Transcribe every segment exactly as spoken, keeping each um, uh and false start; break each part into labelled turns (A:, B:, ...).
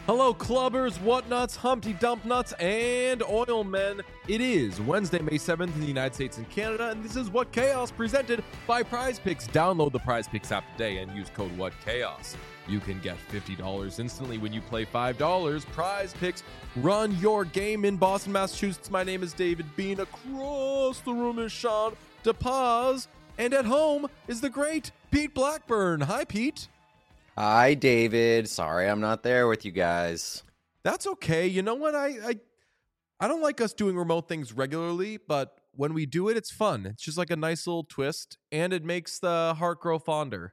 A: Hello, clubbers, whatnuts, Humpty Dump Nuts, and oil men. It is Wednesday, May seventh in the United States and Canada, and this is What Chaos presented by Prize Picks. Download the Prize Picks app today and use code What Chaos. You can get fifty dollars instantly when you play five dollars. Prize Picks, run your game in Boston, Massachusetts. My name is David Bean. Across the room is Sean DePaz, and at home is the great Pete Blackburn. Hi, Pete.
B: Hi, David. Sorry I'm not there with you guys.
A: That's okay. You know what? I, I I don't like us doing remote things regularly, but when we do it, it's fun. It's just like a nice little twist, and it makes the heart grow fonder.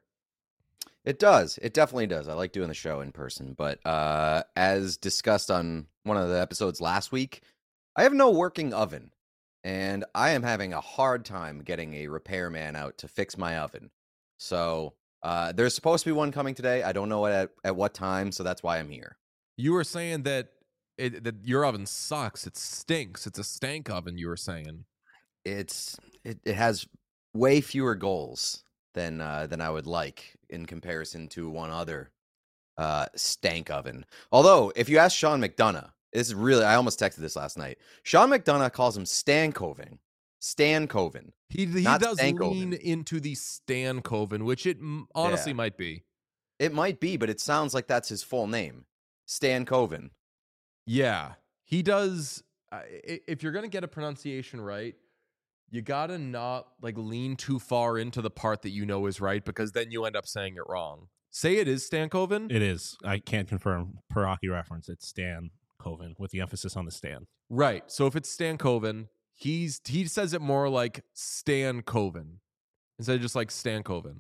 B: It does. It definitely does. I like doing the show in person, but uh, as discussed on one of the episodes last week, I have no working oven, and I am having a hard time getting a repairman out to fix my oven. So... Uh, there's supposed to be one coming today. I don't know at, at what time, so that's why I'm here.
A: You were saying that it, that your oven sucks. It stinks. It's a stank oven, you were saying.
B: It's it, it has way fewer goals than uh, than I would like in comparison to one other uh, stank oven. Although, if you ask Sean McDonough, this is really, I almost texted this last night. Sean McDonough calls him Stankoven. Stankoven.
A: He he does Stankoven. Lean into the Stankoven, which it honestly yeah. might be.
B: It might be, but it sounds like that's his full name, Stankoven.
A: Yeah, he does. Uh, if you're gonna get a pronunciation right, you gotta not like lean too far into the part that you know is right, because then you end up saying it wrong. Say it is Stankoven.
C: It is. I can't confirm per hockey reference. It's Stankoven with the emphasis on the Stan.
A: Right. So if it's Stankoven. He's he says it more like Stan Coven instead of just like Stan Coven.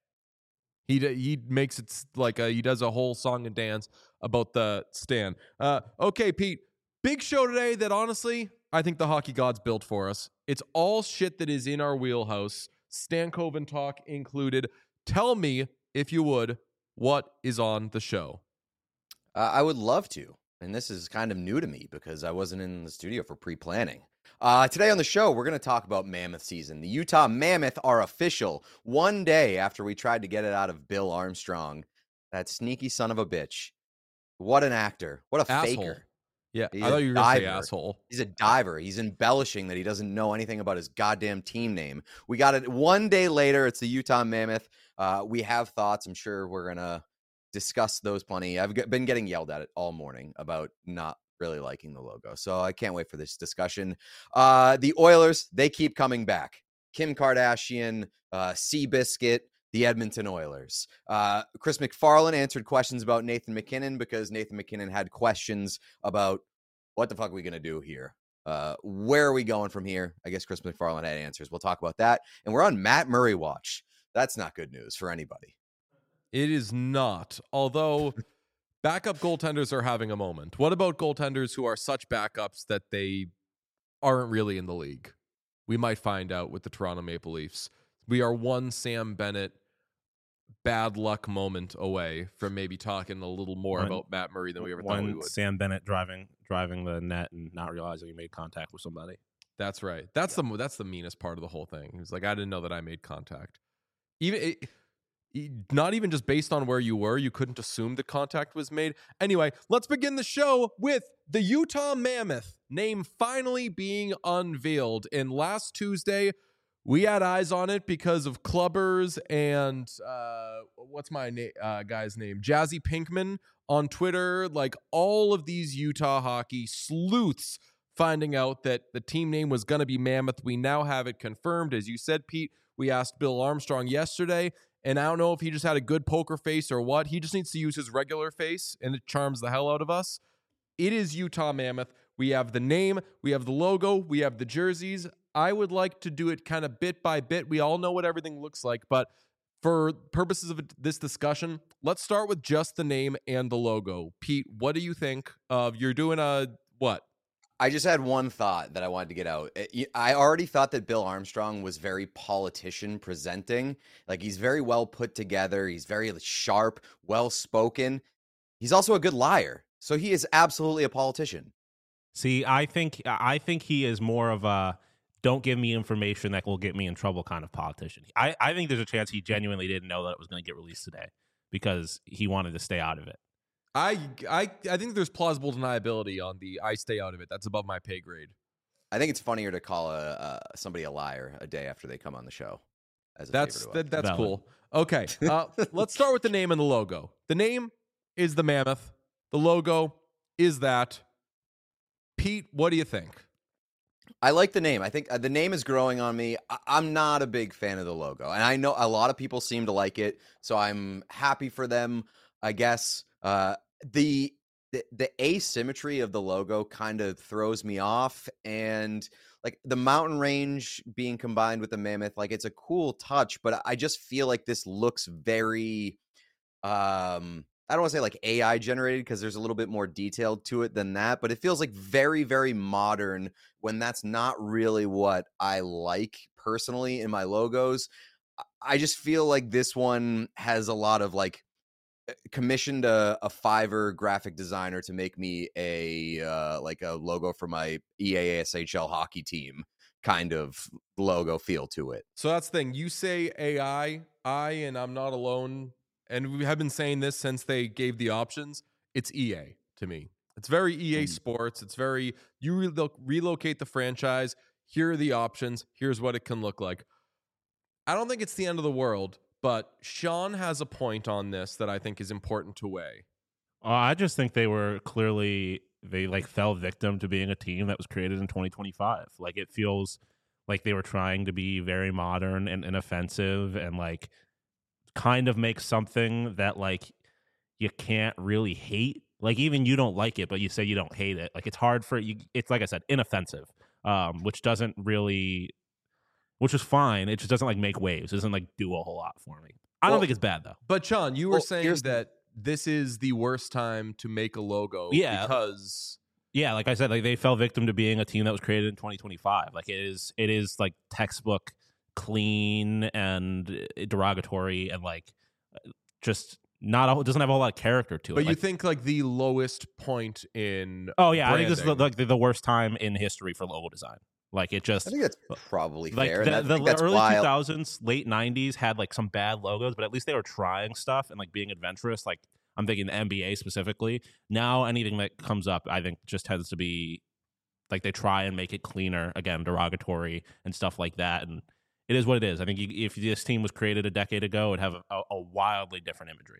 A: He he makes it like a, he does a whole song and dance about the Stan. Uh, okay, Pete, big show today that honestly I think the hockey gods built for us. It's all shit that is in our wheelhouse, Stan Coven talk included. Tell me, if you would, what is on the show?
B: Uh, I would love to, and this is kind of new to me because I wasn't in the studio for pre-planning. Uh, today on the show, we're going to talk about Mammoth season. The Utah Mammoth are official one day after we tried to get it out of Bill Armstrong. That sneaky son of a bitch. What an actor. What a
A: asshole.
B: faker.
A: Yeah,
B: He's
A: I thought you were going to say asshole.
B: He's a diver. He's embellishing that he doesn't know anything about his goddamn team name. We got it one day later. It's the Utah Mammoth. Uh, we have thoughts. I'm sure we're going to discuss those plenty. I've been getting yelled at it all morning about not really liking the logo, so I can't wait for this discussion. Uh, the Oilers, they keep coming back. Kim Kardashian, uh, Seabiscuit, the Edmonton Oilers. Uh, Chris McFarland answered questions about Nathan MacKinnon because Nathan MacKinnon had questions about what the fuck are we going to do here? Uh, where are we going from here? I guess Chris McFarland had answers. We'll talk about that. And we're on Matt Murray watch. That's not good news for anybody.
A: It is not, although... Backup goaltenders are having a moment. What about goaltenders who are such backups that they aren't really in the league? We might find out with the Toronto Maple Leafs. We are one Sam Bennett bad luck moment away from maybe talking a little more one, about Matt Murray than we ever thought we would.
C: Sam Bennett driving driving the net and not realizing he made contact with somebody.
A: That's right. That's yeah. the that's the meanest part of the whole thing. He was like, I didn't know that I made contact. Even. It, Not even just based on where you were, you couldn't assume the contact was made. Anyway, let's begin the show with the Utah Mammoth name finally being unveiled. And last Tuesday, we had eyes on it because of Clubbers and uh, what's my na- uh, guy's name? Jazzy Pinkman on Twitter. Like all of these Utah hockey sleuths finding out that the team name was going to be Mammoth. We now have it confirmed. As you said, Pete, we asked Bill Armstrong yesterday. And I don't know if he just had a good poker face or what. He just needs to use his regular face, and it charms the hell out of us. It is Utah Mammoth. We have the name. We have the logo. We have the jerseys. I would like to do it kind of bit by bit. We all know what everything looks like. But for purposes of this discussion, let's start with just the name and the logo. Pete, what do you think of, you're doing a, what?
B: I just had one thought that I wanted to get out. I already thought that Bill Armstrong was very politician presenting. Like, he's very well put together. He's very sharp, well-spoken. He's also a good liar. So he is absolutely a politician.
C: See, I think I think he is more of a don't give me information that will get me in trouble kind of politician. I, I think there's a chance he genuinely didn't know that it was going to get released today because he wanted to stay out of it.
A: I, I, I think there's plausible deniability on the I stay out of it. That's above my pay grade.
B: I think it's funnier to call a uh, somebody a liar a day after they come on the show. As a
A: That's
B: favor to us.
A: that, that's
C: Valid.
A: cool. Okay, uh, let's start with the name and the logo. The name is the Mammoth. The logo is that. Pete, what do you think?
B: I like the name. I think uh, the name is growing on me. I- I'm not a big fan of the logo, and I know a lot of people seem to like it, so I'm happy for them, I guess. Uh, the, the the asymmetry of the logo kind of throws me off, and like the mountain range being combined with the mammoth, like it's a cool touch, but I just feel like this looks very um I don't want to say like A I generated because there's a little bit more detailed to it than that, but it feels like very, very modern when that's not really what I like personally in my logos. I just feel like this one has a lot of like commissioned a, a Fiverr graphic designer to make me a uh, like a logo for my E A S H L hockey team kind of logo feel to it.
A: So that's the thing. You say A I, I, and I'm not alone. And we have been saying this since they gave the options. It's E A to me. It's very E A
B: Mm.
A: Sports. It's very, you relo- relocate the franchise. Here are the options. Here's what it can look like. I don't think it's the end of the world, but Sean has a point on this that I think is important to weigh.
C: Uh, I just think they were clearly they like fell victim to being a team that was created in twenty twenty-five. Like it feels like they were trying to be very modern and inoffensive and like kind of make something that like you can't really hate. Like even you don't like it, but you say you don't hate it. Like it's hard for you. It's like I said, inoffensive, um, which doesn't really, which is fine. It just doesn't like make waves. It doesn't like do a whole lot for me. I
B: Well,
C: don't think it's bad though.
A: But Sean, you were
B: Well,
A: saying
B: here's the-
A: that this is the worst time to make a logo
C: Yeah.
A: because
C: Yeah, like I said, like they fell victim to being a team that was created in twenty twenty-five. Like it is, it is like textbook clean and derogatory and like just not. A, it doesn't have a whole lot of character to it.
A: But you
C: Like,
A: think like the lowest point in
C: oh yeah, I think this is the,
A: branding.
C: like the, the worst time in history for logo design. Like it just
B: I think that's probably
C: like
B: fair.
C: the,
B: and I
C: the
B: think that's
C: early
B: why
C: two thousands, late nineties had like some bad logos, but at least they were trying stuff and like being adventurous. Like I'm thinking the N B A specifically. Now anything that comes up, I think just tends to be like they try and make it cleaner, again, derogatory and stuff like that. And it is what it is. I think you, if this team was created a decade ago, it'd have a, a wildly different imagery.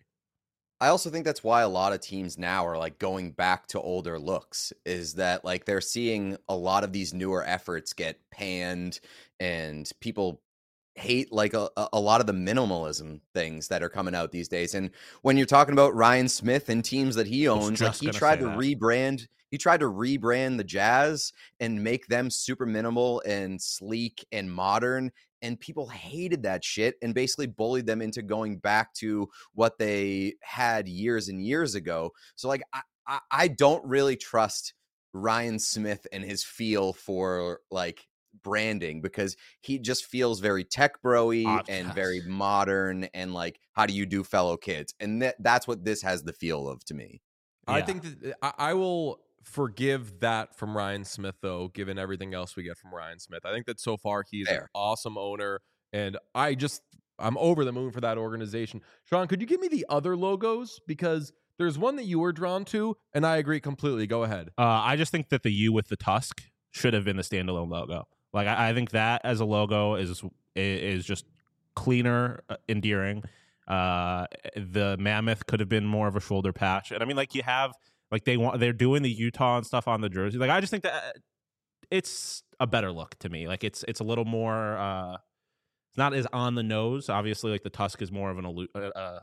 B: I also think that's why a lot of teams now are like going back to older looks, is that like they're seeing a lot of these newer efforts get panned and people hate like a, a lot of the minimalism things that are coming out these days. And when you're talking about Ryan Smith and teams that he owns, like
C: just
B: he
C: gonna
B: tried
C: say
B: to
C: that.
B: rebrand, he tried to rebrand the Jazz and make them super minimal and sleek and modern. And people hated that shit and basically bullied them into going back to what they had years and years ago. So like, I, I, I don't really trust Ryan Smith and his feel for like branding because he just feels very tech bro-y
C: Ah,
B: and
C: yes.
B: very modern and like, how do you do fellow kids? And that, that's what this has the feel of to me.
A: I
C: Yeah.
A: think that I, I will forgive that from Ryan Smith, though, given everything else we get from Ryan Smith. I think that so far he's an
B: Fair.
A: awesome owner, and I just I'm over the moon for that organization. Sean, could you give me the other logos? Because there's one that you were drawn to, and I agree completely. Go ahead.
C: Uh, I just think that the U with the tusk should have been the standalone logo. Like I, I think that as a logo is is just cleaner, uh, endearing. Uh, the mammoth could have been more of a shoulder patch, and I mean, like you have, like they want, they're doing the Utah and stuff on the jersey. Like I just think that it's a better look to me. Like it's it's a little more, uh, it's not as on the nose. Obviously, like the tusk is more of an allu- uh, uh,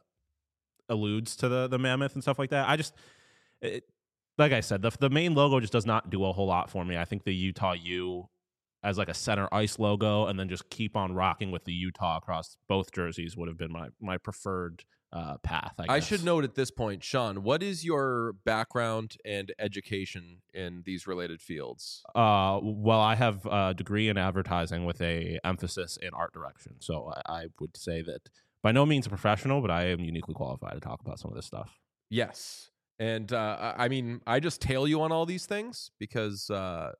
C: alludes to the the mammoth and stuff like that. I just, it, like I said, the the main logo just does not do a whole lot for me. I think the Utah U as like a center ice logo, and then just keep on rocking with the Utah across both jerseys would have been my my preferred uh, path. I,
A: I
C: guess.
A: should note at this point, Sean, what is your background and education in these related fields?
C: Uh, well, I have a degree in advertising with a emphasis in art direction. So I, I would say that by no means a professional, but I am uniquely qualified to talk about some of this stuff.
A: Yes. And uh, I I mean, I just tail you on all these things because uh,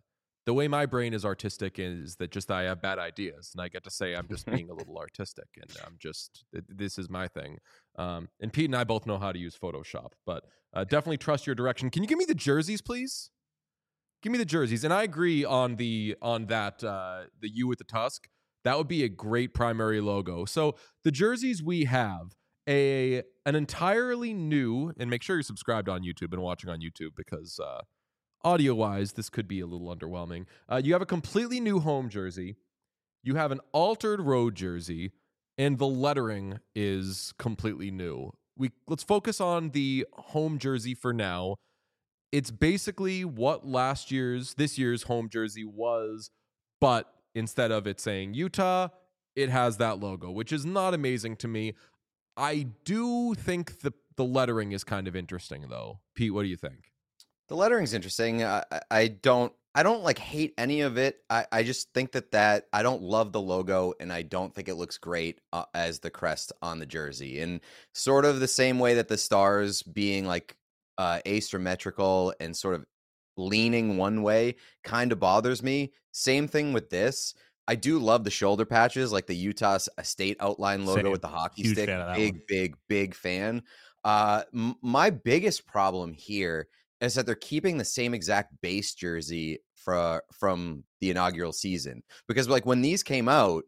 A: the way my brain is artistic is that just I have bad ideas, and I get to say I'm just being a little artistic, and I'm just th- this is my thing. Um, and Pete and I both know how to use Photoshop, but uh, definitely trust your direction. Can you give me the jerseys, please? Give me the jerseys, and I agree on the on that uh, the U with the tusk. That would be a great primary logo. So the jerseys we have a an entirely new, and make sure you're subscribed on YouTube and watching on YouTube because. Uh, Audio-wise, this could be a little underwhelming. Uh, you have a completely new home jersey. You have an altered road jersey, and the lettering is completely new. We let's focus on the home jersey for now. It's basically what last year's, this year's home jersey was, but instead of it saying Utah, it has that logo, which is not amazing to me. I do think the the lettering is kind of interesting, though. Pete, what do you think?
B: The lettering's interesting. I, I don't I don't like hate any of it. I, I just think that that I don't love the logo, and I don't think it looks great uh, as the crest on the jersey. And sort of the same way that the stars being like uh, asymmetrical and sort of leaning one way kind of bothers me. Same thing with this. I do love the shoulder patches, like the Utah State outline logo
C: Same.
B: with the hockey
C: Huge
B: stick.
C: fan of that
B: Big,
C: one.
B: big, big fan. Uh, m- my biggest problem here is that they're keeping the same exact base jersey for, from the inaugural season. Because like when these came out,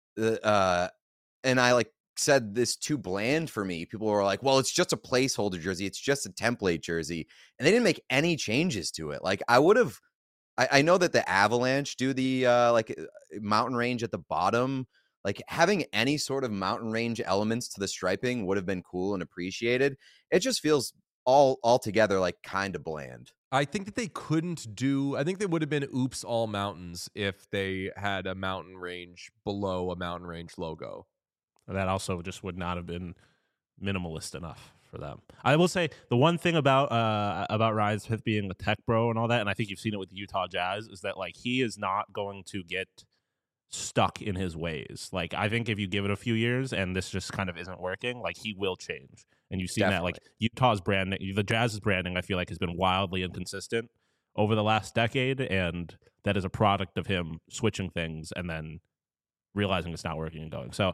B: uh, and I like said this too bland for me, people were like, well, it's just a placeholder jersey. It's just a template jersey. And they didn't make any changes to it. Like I would have, I, I know that the Avalanche do the uh, like mountain range at the bottom. Like having any sort of mountain range elements to the striping would have been cool and appreciated. It just feels all altogether like kind of bland.
A: I think that they couldn't do, I think they would have been oops all mountains if they had a mountain range below a mountain range logo.
C: That also just would not have been minimalist enough for them. I will say the one thing about uh, about Ryan Smith being a tech bro and all that, and I think you've seen it with the Utah Jazz, is that like he is not going to get stuck in his ways. Like I think if you give it a few years and this just kind of isn't working, like he will change. And you've seen
B: Definitely.
C: that like Utah's branding, the Jazz's branding, I feel like has been wildly inconsistent over the last decade, and that is a product of him switching things and then realizing it's not working and going. So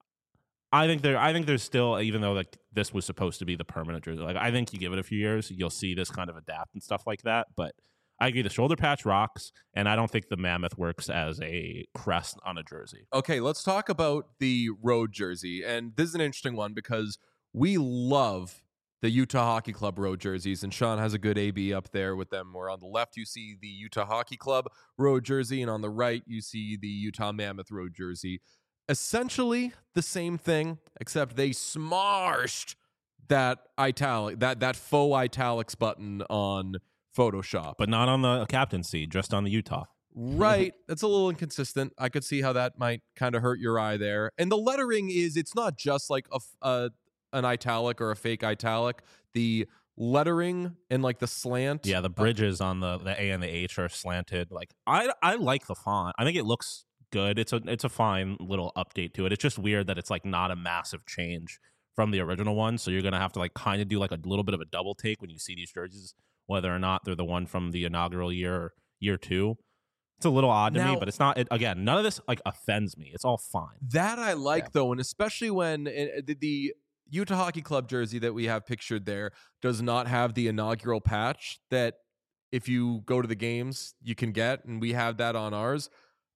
C: I think there I think there's still, even though like this was supposed to be the permanent jersey, like I think you give it a few years, you'll see this kind of adapt and stuff like that. But I agree, the shoulder patch rocks, and I don't think the mammoth works as a crest on a jersey.
A: Okay, let's talk about the road jersey. And this is an interesting one because we love the Utah Hockey Club road jerseys, and Sean has a good A B up there with them, where on the left you see the Utah Hockey Club road jersey, and on the right you see the Utah Mammoth road jersey. Essentially the same thing, except they smashed that italic, that that faux italics button on Photoshop.
C: But not on the captaincy, just on the Utah.
A: Right. That's a little inconsistent. I could see how that might kind of hurt your eye there. And the lettering is, it's not just like a, a an italic or a fake italic. The lettering and like the slant.
C: Yeah, the bridges on the, the A and the H are slanted. Like I I like the font. I think it looks good. It's a it's a fine little update to it. It's just weird that it's like not a massive change from the original one. So you're gonna have to like kind of do like a little bit of a double take when you see these jerseys, whether or not they're the one from the inaugural year or year two. It's a little odd to
A: Now-
C: me, but it's not. It, again, none of this like offends me. It's all fine.
A: That I like,
B: Yeah.
A: though, and especially when uh, the, the Utah Hockey Club jersey that we have pictured there does not have the inaugural patch that if you go to the games you can get, and we have that on ours.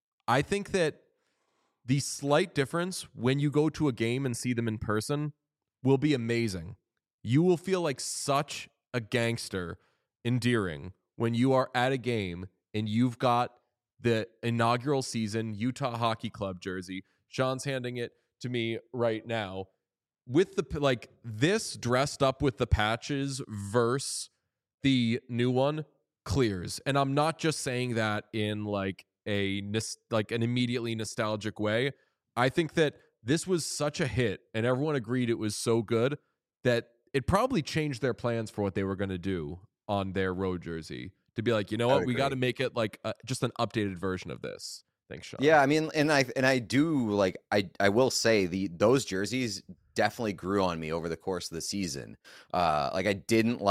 A: I think that the slight difference when you go to a game and see them in person will be amazing. You will feel like such a gangster endearing when you are at a game and you've got the inaugural season Utah Hockey Club jersey. Sean's handing it to me right now with the like this dressed up with the patches versus the new one clears. And I'm not just saying that in like a like an immediately nostalgic way. I think that this was such a hit and everyone agreed it was so good that it probably changed their plans for what they were going to do on their road jersey. To be like, you know
B: I
A: what,
B: would
A: we got to
B: agree.
A: make it like uh, just an updated version of this. Thanks, Sean.
B: Yeah, I mean, and I and I do like I I will say the those jerseys definitely grew on me over the course of the season. Uh, like I didn't like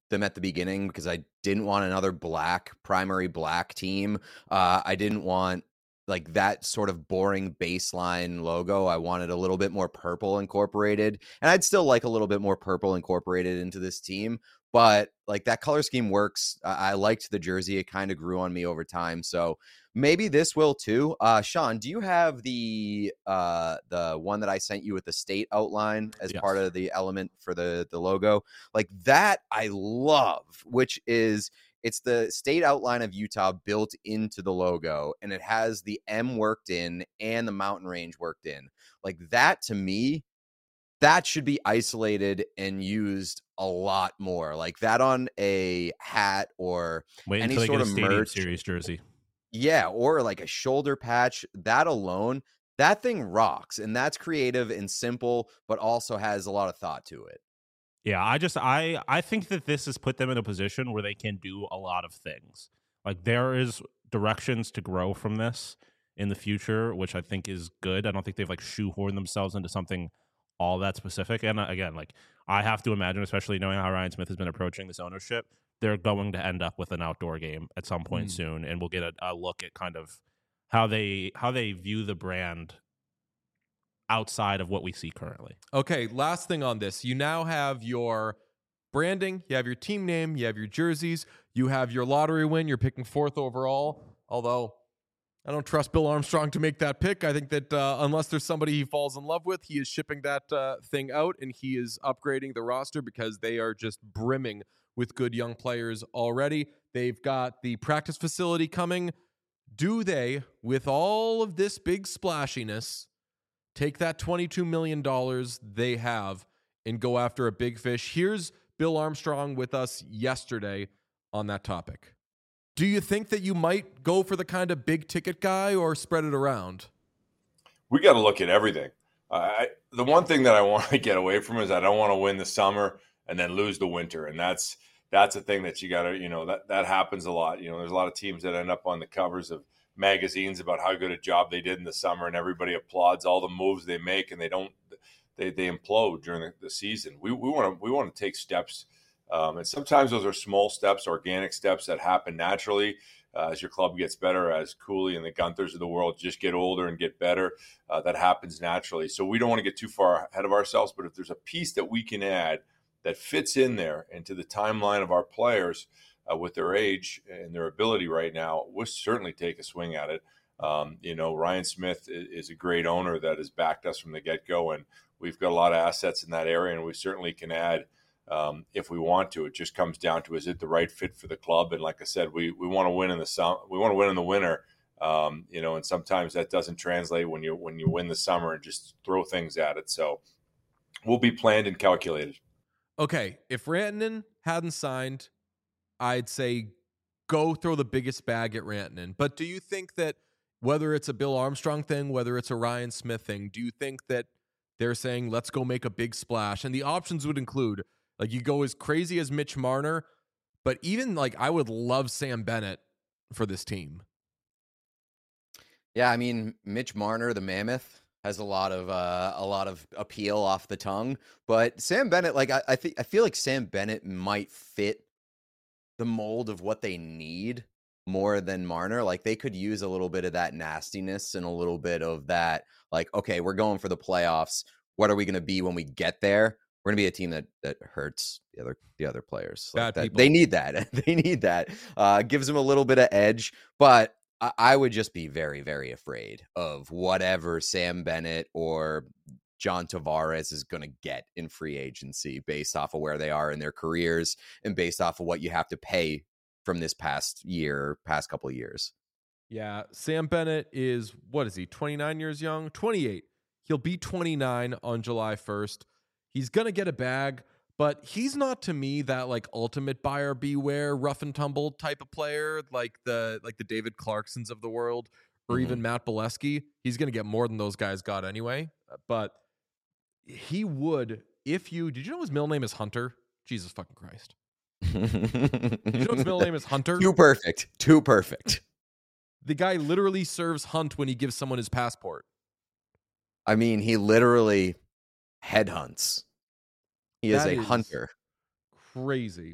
B: them at the beginning because I didn't want another black, primary black team. Uh, I didn't want like that sort of boring baseline logo. I wanted a little bit more purple incorporated, and I'd still like a little bit more purple incorporated into this team. But like that color scheme works. I, I liked the jersey. It kind of grew on me over time. So maybe this will too. Uh, Sean, do you have the uh, the one that I sent you with the state outline as
C: Yes.
B: part of the element for the the logo? Like that, I love, which is it's the state outline of Utah built into the logo, and it has the M worked in and the mountain range worked in. Like that to me, that should be isolated and used a lot more. Like that on a hat or
C: Wait
B: any
C: until they
B: sort
C: get a
B: of
C: Stadium
B: merch.
C: Series jersey.
B: Yeah, or like a shoulder patch. That alone, that thing rocks, and that's creative and simple, but also has a lot of thought to it.
C: Yeah, I just I I think that this has put them in a position where they can do a lot of things. Like there is directions to grow from this in the future, which I think is good. I don't think they've like shoehorned themselves into something all that specific. And uh, again, like I have to imagine, especially knowing how Ryan Smith has been approaching this ownership, they're going to end up with an outdoor game at some point
A: Mm.
C: soon, and we'll get a, a look at kind of how they how they view the brand outside of what we see currently.
A: Okay, last thing on this. You now have your branding, you have your team name, you have your jerseys, you have your lottery win, you're picking fourth overall. Although I don't trust Bill Armstrong to make that pick. I think that uh, unless there's somebody he falls in love with, he is shipping that uh, thing out, and he is upgrading the roster because they are just brimming with good young players already. They've got the practice facility coming. Do they, with all of this big splashiness, take that twenty-two million dollars they have and go after a big fish? Here's Bill Armstrong with us yesterday on that topic. Do you think that you might go for the kind of big ticket guy or spread it around?
D: We got to look at everything. Uh, I, the one thing that I want to get away from is I don't want to win the summer and then lose the winter. And that's that's a thing that you got to, you know, that, that happens a lot. You know, there's a lot of teams that end up on the covers of magazines about how good a job they did in the summer, and everybody applauds all the moves they make, and they don't, they they implode during the, the season. We we want to we want to take steps. Um, and sometimes those are small steps, organic steps that happen naturally uh, as your club gets better, as Cooley and the Gunthers of the world just get older and get better. Uh, that happens naturally. So we don't want to get too far ahead of ourselves. But if there's a piece that we can add that fits in there into the timeline of our players uh, with their age and their ability right now, we'll certainly take a swing at it. Um, you know, Ryan Smith is, is a great owner that has backed us from the get-go, and we've got a lot of assets in that area, and we certainly can add Um, if we want to. It just comes down to, is it the right fit for the club? And like I said, we we want to win in the summer. We want to win in the winter. Um, you know, and sometimes that doesn't translate when you when you win the summer and just throw things at it. So we'll be planned and calculated.
A: Okay, if Rantanen hadn't signed, I'd say go throw the biggest bag at Rantanen. But do you think that whether it's a Bill Armstrong thing, whether it's a Ryan Smith thing, do you think that they're saying, let's go make a big splash? And the options would include, like, you go as crazy as Mitch Marner, but even, like, I would love Sam Bennett for this team.
B: Yeah, I mean, Mitch Marner, the Mammoth, has a lot of uh, a lot of appeal off the tongue. But Sam Bennett, like, I, I think I feel like Sam Bennett might fit the mold of what they need more than Marner. Like, they could use a little bit of that nastiness and a little bit of that, like, okay, we're going for the playoffs. What are we going to be when we get there? We're going to be a team that that hurts the other the other players. Like
A: Bad
B: that,
A: people.
B: they need that. They need that. Uh, gives them a little bit of edge. But I, I would just be very, very afraid of whatever Sam Bennett or John Tavares is going to get in free agency based off of where they are in their careers and based off of what you have to pay from this past year, past couple of years.
A: Yeah, Sam Bennett is, what is he, twenty-nine years young? twenty-eight. He'll be twenty-nine on July first. He's going to get a bag, but he's not, to me, that, like, ultimate buyer beware, rough and tumble type of player, like the like the David Clarksons of the world, or
B: Mhm.
A: even Matt Bolesky. He's going to get more than those guys got anyway. But he would, if you, did you know his middle name is Hunter? Jesus fucking Christ. Did you know his middle name is Hunter?
B: Too perfect. Too perfect.
A: The guy literally serves Hunt when he gives someone his passport.
B: I mean, he literally headhunts. He is
A: That
B: a
A: is
B: hunter.
A: Crazy.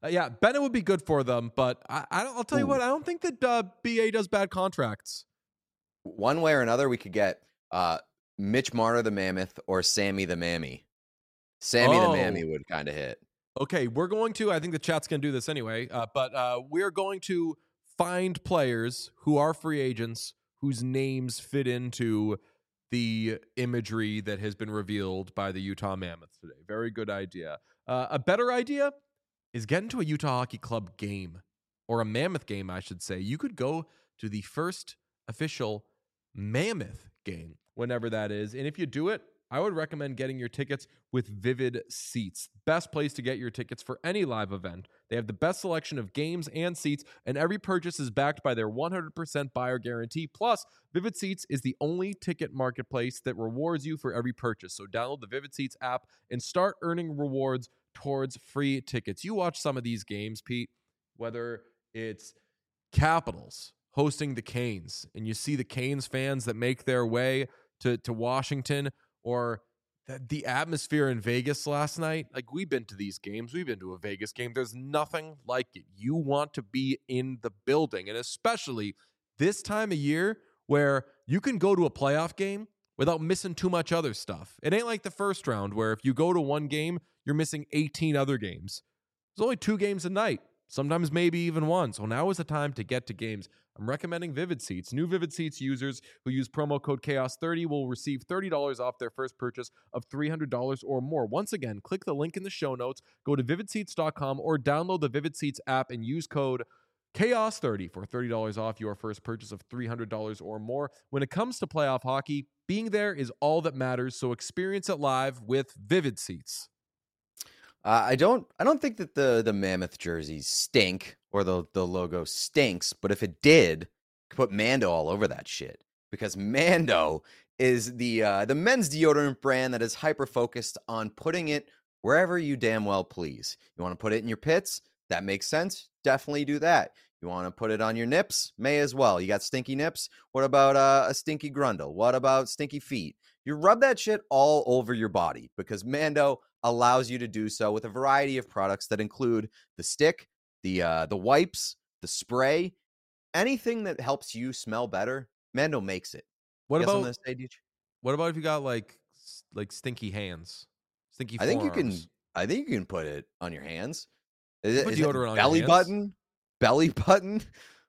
A: Uh, yeah, Bennett would be good for them, but I, I don't, I'll tell you
B: Ooh.
A: what, I don't think that uh, B A does bad contracts.
B: One way or another, we could get uh, Mitch Marner the Mammoth or Sammy the Mammy. Sammy
A: Oh.
B: the Mammy would kind of hit.
A: Okay, we're going to, I think the chat's going to do this anyway, uh, but uh, we're going to find players who are free agents whose names fit into the imagery that has been revealed by the Utah Mammoth today. Very good idea. Uh, a better idea is get into a Utah Hockey Club game, or a Mammoth game, I should say. You could go to the first official Mammoth game, whenever that is. And if you do it, I would recommend getting your tickets with Vivid Seats. Best place to get your tickets for any live event. They have the best selection of games and seats, and every purchase is backed by their one hundred percent buyer guarantee. Plus, Vivid Seats is the only ticket marketplace that rewards you for every purchase. So download the Vivid Seats app and start earning rewards towards free tickets. You watch some of these games, Pete, whether it's Capitals hosting the Canes, and you see the Canes fans that make their way to, to Washington, or the, the atmosphere in Vegas last night. Like, we've been to these games. We've been to a Vegas game. There's nothing like it. You want to be in the building, and especially this time of year where you can go to a playoff game without missing too much other stuff. It ain't like the first round where if you go to one game, you're missing eighteen other games. There's only two games a night, sometimes maybe even one. So now is the time to get to games. I'm recommending Vivid Seats. New Vivid Seats users who use promo code chaos thirty will receive thirty dollars off their first purchase of three hundred dollars or more. Once again, click the link in the show notes, go to vivid seats dot com, or download the Vivid Seats app and use code chaos thirty for thirty dollars off your first purchase of three hundred dollars or more. When it comes to playoff hockey, being there is all that matters, so experience it live with Vivid Seats.
B: Uh, I don't. I don't think that the the Mammoth jerseys stink or the the logo stinks. But if it did, put Mando all over that shit, because Mando is the uh, the men's deodorant brand that is hyper focused on putting it wherever you damn well please. You want to put it in your pits? That makes sense. Definitely do that. You want to put it on your nips? May as well. You got stinky nips? What about uh, a stinky grundle? What about stinky feet? You rub that shit all over your body, because Mando allows you to do so with a variety of products that include the stick, the uh, the wipes, the spray, anything that helps you smell better. Mando makes it.
A: What
B: You got
A: about
B: something to say, Deej?
A: what about if you got like s- like stinky hands, stinky
B: I think you can.
A: forearms?
B: I think you can put it on your hands. Is it,
A: Put
B: is it
A: deodorant on your
B: belly
A: hands?
B: button? Belly button?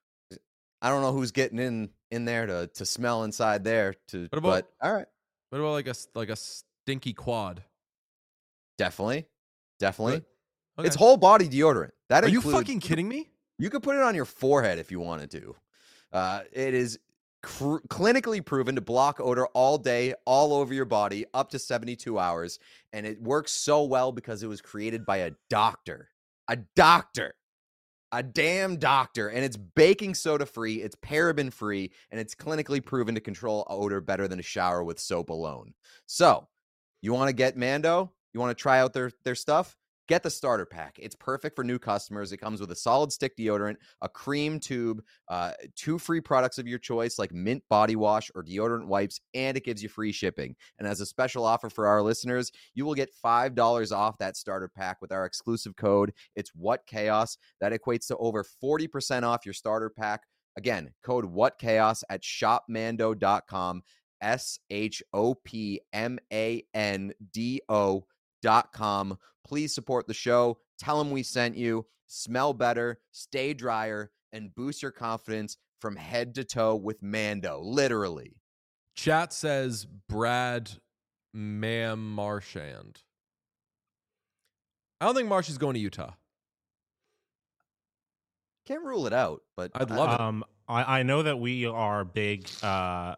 B: I don't know who's getting in in there to to smell inside there. To
A: What about-
B: but all right,
A: What about like a s- like a stinky quad?
B: definitely, definitely.
A: Really? Okay.
B: It's whole body deodorant. That
A: Are you
B: includes-
A: fucking kidding me?
B: You could put it on your forehead if you wanted to. Uh, it is cr- clinically proven to block odor all day, all over your body, up to seventy-two hours. And it works so well because it was created by a doctor. A doctor. A damn doctor. And it's baking soda free, it's paraben free, and it's clinically proven to control odor better than a shower with soap alone. So, you want to get Mando? You want to try out their, their stuff? Get the starter pack. It's perfect for new customers. It comes with a solid stick deodorant, a cream tube, uh, two free products of your choice like mint body wash or deodorant wipes, and it gives you free shipping. And as a special offer for our listeners, you will get five dollars off that starter pack with our exclusive code. It's WhatChaos. That equates to over forty percent off your starter pack. Again, code WhatChaos at shop mando dot com, S H O P M A N D O dot com. Please support the show. Tell them we sent you. Smell better, stay drier, and boost your confidence from head to toe with Mando. Literally.
A: Chat says Brad Mam Marchand. I don't think Marsh is going to Utah.
B: Can't rule it out, but
A: I'd
B: I-
A: love it.
C: Um, I, I know that we are big uh,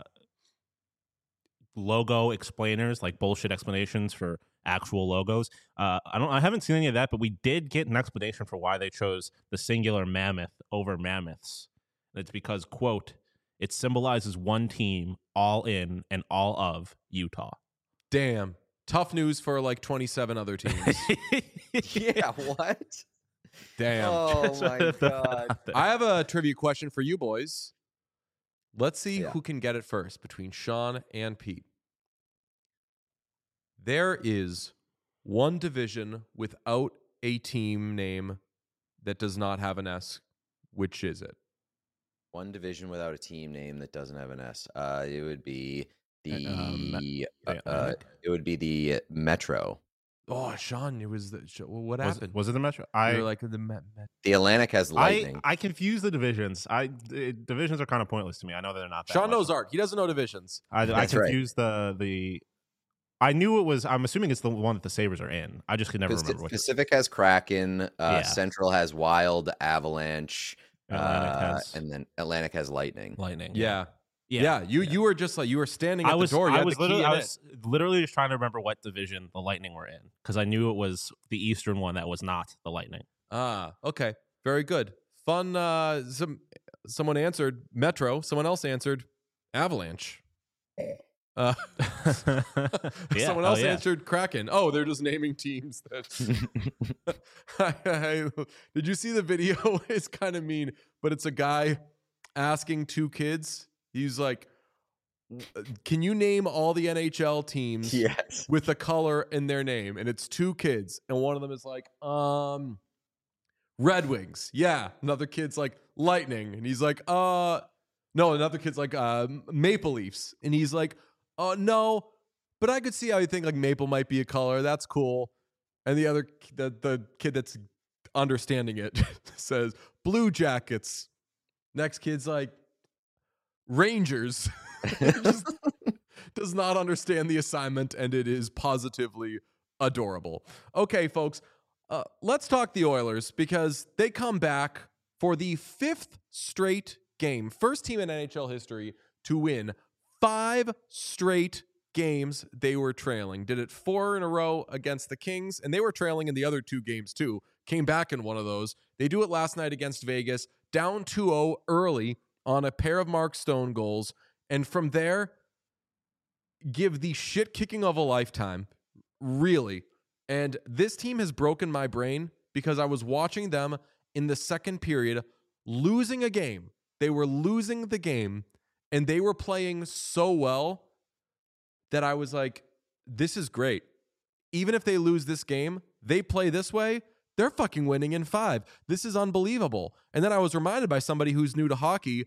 C: logo explainers, like bullshit explanations for actual logos. Uh, I don't. I haven't seen any of that, but we did get an explanation for why they chose the singular mammoth over mammoths. And it's because, quote, it symbolizes one team, all in and all of Utah.
A: Damn. Tough news for like twenty-seven other teams.
B: yeah, what?
A: Damn.
B: Oh
C: Just
B: my
C: wanted to throw that
B: god.
C: out there.
A: I have a trivia question for you boys. Let's see
B: Yeah.
A: who can get it first between Sean and Pete. There is one division without a team name that does not have an S. Which is it?
B: One division without a team name that doesn't have an S. Uh, it would be the.
C: Um,
B: uh, uh, it would be the Metro.
A: Oh, Sean, it was the. What
C: was,
A: happened?
C: Was it the Metro? I
A: You're like the Met. Met.
B: The Atlantic has Lightning.
C: I, I confuse the divisions. I the divisions are kind of pointless to me. I know they're not. That
A: Sean
C: much.
A: knows art. He doesn't know divisions.
C: I, I
B: That's right.
C: confuse the the. I knew it was. I'm assuming it's the one that the Sabres are in. I just could never
B: Pacific,
C: remember what.
B: Pacific has Kraken. Uh,
C: Yeah.
B: Central has Wild, Avalanche,
C: Atlantic
B: uh,
C: has
B: and then Atlantic has Lightning.
C: Lightning.
A: Yeah.
C: yeah,
A: Yeah. You
C: yeah.
A: you were just like you were standing at
C: I was.
A: the door. You
C: I
A: had
C: was
A: the key
C: literally.
A: in
C: I
A: it.
C: was literally just trying to remember what division the Lightning were in because I knew it was the Eastern one that was not the Lightning.
A: Ah, okay. Very good. Fun. Uh, some someone answered Metro. Someone else answered Avalanche. Uh,
C: Yeah,
A: someone
C: hell
A: else
C: yeah.
A: answered Kraken. Oh, they're just naming teams. That I, I, did you see the video? It's kind of mean, but it's a guy asking two kids. He's like, "Can you name all the N H L teams
B: Yes.
A: with a color in their name?" And it's two kids, and one of them is like, "Um, Red Wings." Yeah. Another kid's like Lightning, and he's like, "Uh, no." Another kid's like, uh, Maple Leafs, and he's like, "Uh, no." But I could see how you think like maple might be a color. That's cool. And the other, the the kid that's understanding it says Blue Jackets. Next kid's like Rangers. Just does not understand the assignment, and it is positively adorable. Okay, folks, uh, let's talk the Oilers because they come back for the fifth straight game. First team in N H L history to win five straight games they were trailing. Did it four in a row against the Kings, and they were trailing in the other two games too. Came back in one of those. They do it last night against Vegas, down two oh early on a pair of Mark Stone goals, and from there, give the shit kicking of a lifetime, really. And this team has broken my brain because I was watching them in the second period losing a game. They were losing the game, and they were playing so well that I was like, this is great. Even if they lose this game, they play this way, they're fucking winning in five. This is unbelievable. And then I was reminded by somebody who's new to hockey,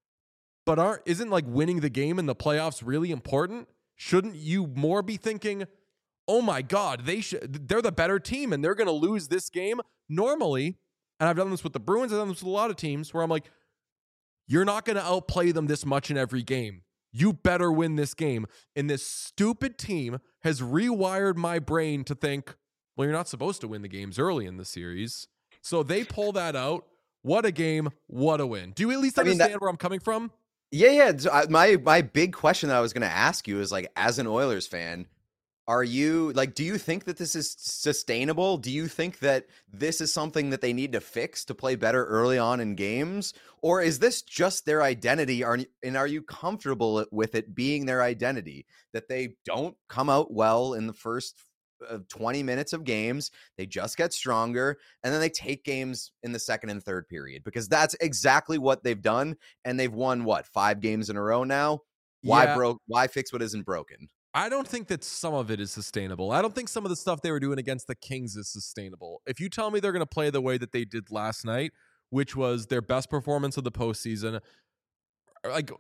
A: but aren't isn't like winning the game in the playoffs really important? Shouldn't you more be thinking, oh my God, they should they're the better team and they're gonna lose this game? Normally, and I've done this with the Bruins, I've done this with a lot of teams where I'm like, you're not gonna outplay them this much in every game. You better win this game. And this stupid team has rewired my brain to think, well, you're not supposed to win the games early in the series. So they pull that out. What a game. What a win. Do you at least
B: I mean,
A: understand
B: that-
A: where I'm coming from?
B: Yeah, yeah. So I, my my big question that I was going to ask you is like, as an Oilers fan, are you like, do you think that this is sustainable? Do you think that this is something that they need to fix to play better early on in games? Or is this just their identity? Are, and are you comfortable with it being their identity that they don't come out well in the first uh, twenty minutes of games? They just get stronger and then they take games in the second and third period because that's exactly what they've done. And they've won what, five games in a row now? Why
A: Yeah.
B: broke? Why fix what isn't broken?
A: I don't think that some of it is sustainable. I don't think some of the stuff they were doing against the Kings is sustainable. If you tell me they're going to play the way that they did last night, which was their best performance of the postseason, like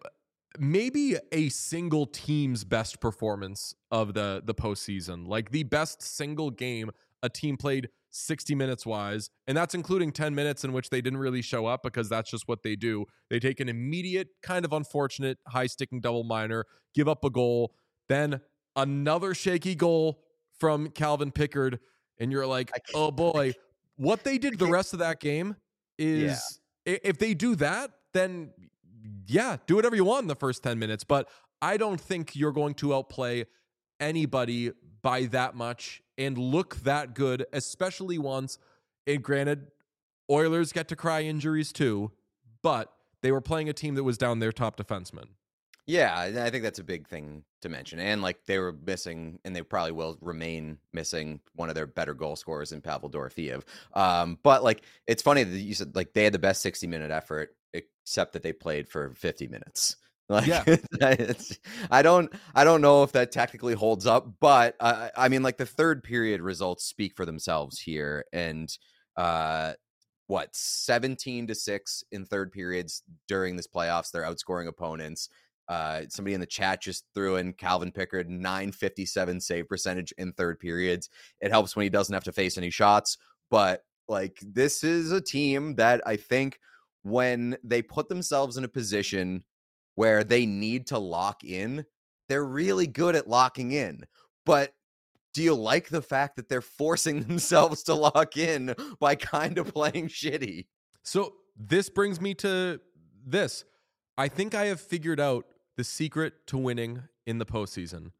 A: maybe a single team's best performance of the, the postseason, like the best single game a team played sixty minutes wise, and that's including ten minutes in which they didn't really show up because that's just what they do. They take an immediate, kind of unfortunate, high-sticking double minor, give up a goal, then another shaky goal from Calvin Pickard, and you're like, oh boy. What they did the rest of that game is, yeah. if they do that, then yeah, do whatever you want in the first ten minutes. But I don't think you're going to outplay anybody by that much and look that good, especially once, and granted, Oilers get to cry injuries too, but they were playing a team that was down their top defenseman.
B: Yeah, I think that's a big thing to mention. And like they were missing, and they probably will remain missing, one of their better goal scorers in Pavel Dorofeev. Um, but like, it's funny that you said like they had the best sixty minute effort, except that they played for fifty minutes. Like,
A: yeah,
B: it's, I don't, I don't know if that technically holds up, but uh, I mean, like the third period results speak for themselves here, and uh, what, seventeen to six in third periods during this playoffs. They're outscoring opponents. Uh, somebody in the chat just threw in Calvin Pickard, nine fifty-seven save percentage in third periods. It helps when he doesn't have to face any shots. But like, this is a team that I think when they put themselves in a position where they need to lock in, they're really good at locking in. But do you like the fact that they're forcing themselves to lock in by kind of playing shitty?
A: So this brings me to this. I think I have figured out the secret to winning in the postseason.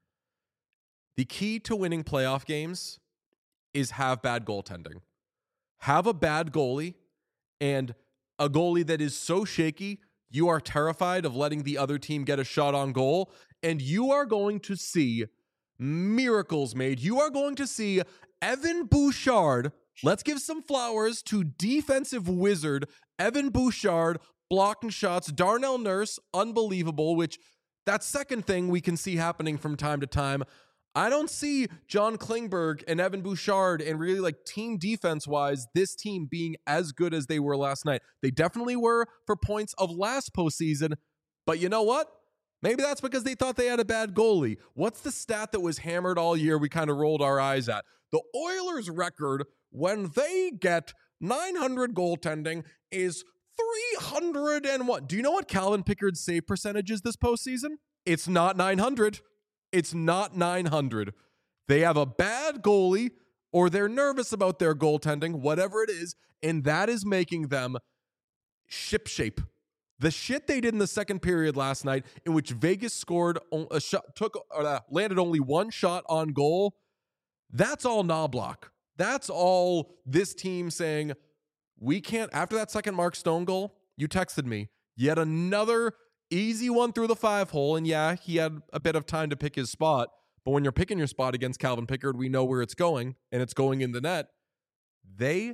A: The key to winning playoff games is have bad goaltending. Have a bad goalie, and a goalie that is so shaky, you are terrified of letting the other team get a shot on goal, and you are going to see miracles made. You are going to see Evan Bouchard. Let's give some flowers to defensive wizard Evan Bouchard blocking shots. Darnell Nurse, unbelievable, which that second thing we can see happening from time to time. I don't see John Klingberg and Evan Bouchard and really like team defense wise, this team being as good as they were last night. They definitely were for points of last postseason, but you know what? Maybe that's because they thought they had a bad goalie. What's the stat that was hammered all year we kind of rolled our eyes at? The Oilers' record when they get nine hundred goaltending is three hundred and one. Do you know what Calvin Pickard's save percentage is this postseason? It's not nine hundred. It's not nine hundred. They have a bad goalie, or they're nervous about their goaltending, whatever it is, and that is making them shipshape. The shit they did in the second period last night, in which Vegas scored a shot, took uh, landed only one shot on goal, that's all Knobloch. That's all this team saying, we can't. After that second Mark Stone goal, you texted me, yet another easy one through the five hole. And yeah, he had a bit of time to pick his spot. But when you're picking your spot against Calvin Pickard, we know where it's going, and it's going in the net. They,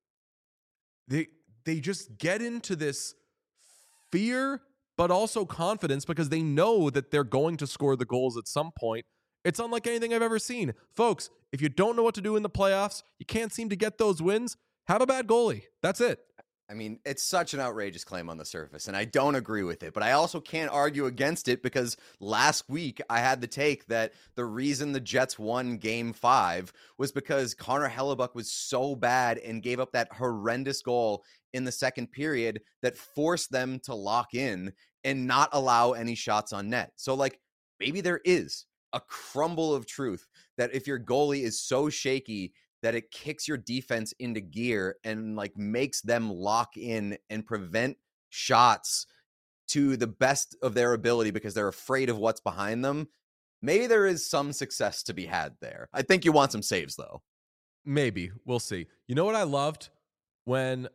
A: they, they just get into this fear, but also confidence because they know that they're going to score the goals at some point. It's unlike anything I've ever seen. Folks, if you don't know what to do in the playoffs, you can't seem to get those wins, have a bad goalie. That's it.
B: I mean, it's such an outrageous claim on the surface, and I don't agree with it, but I also can't argue against it because last week I had the take that the reason the Jets won game five was because Connor Hellebuyck was so bad and gave up that horrendous goal in the second period that forced them to lock in and not allow any shots on net. So, like, maybe there is a crumble of truth that if your goalie is so shaky that it kicks your defense into gear and like makes them lock in and prevent shots to the best of their ability because they're afraid of what's behind them. Maybe there is some success to be had there. I think you want some saves though. Maybe.
A: We'll see. You know what I loved? When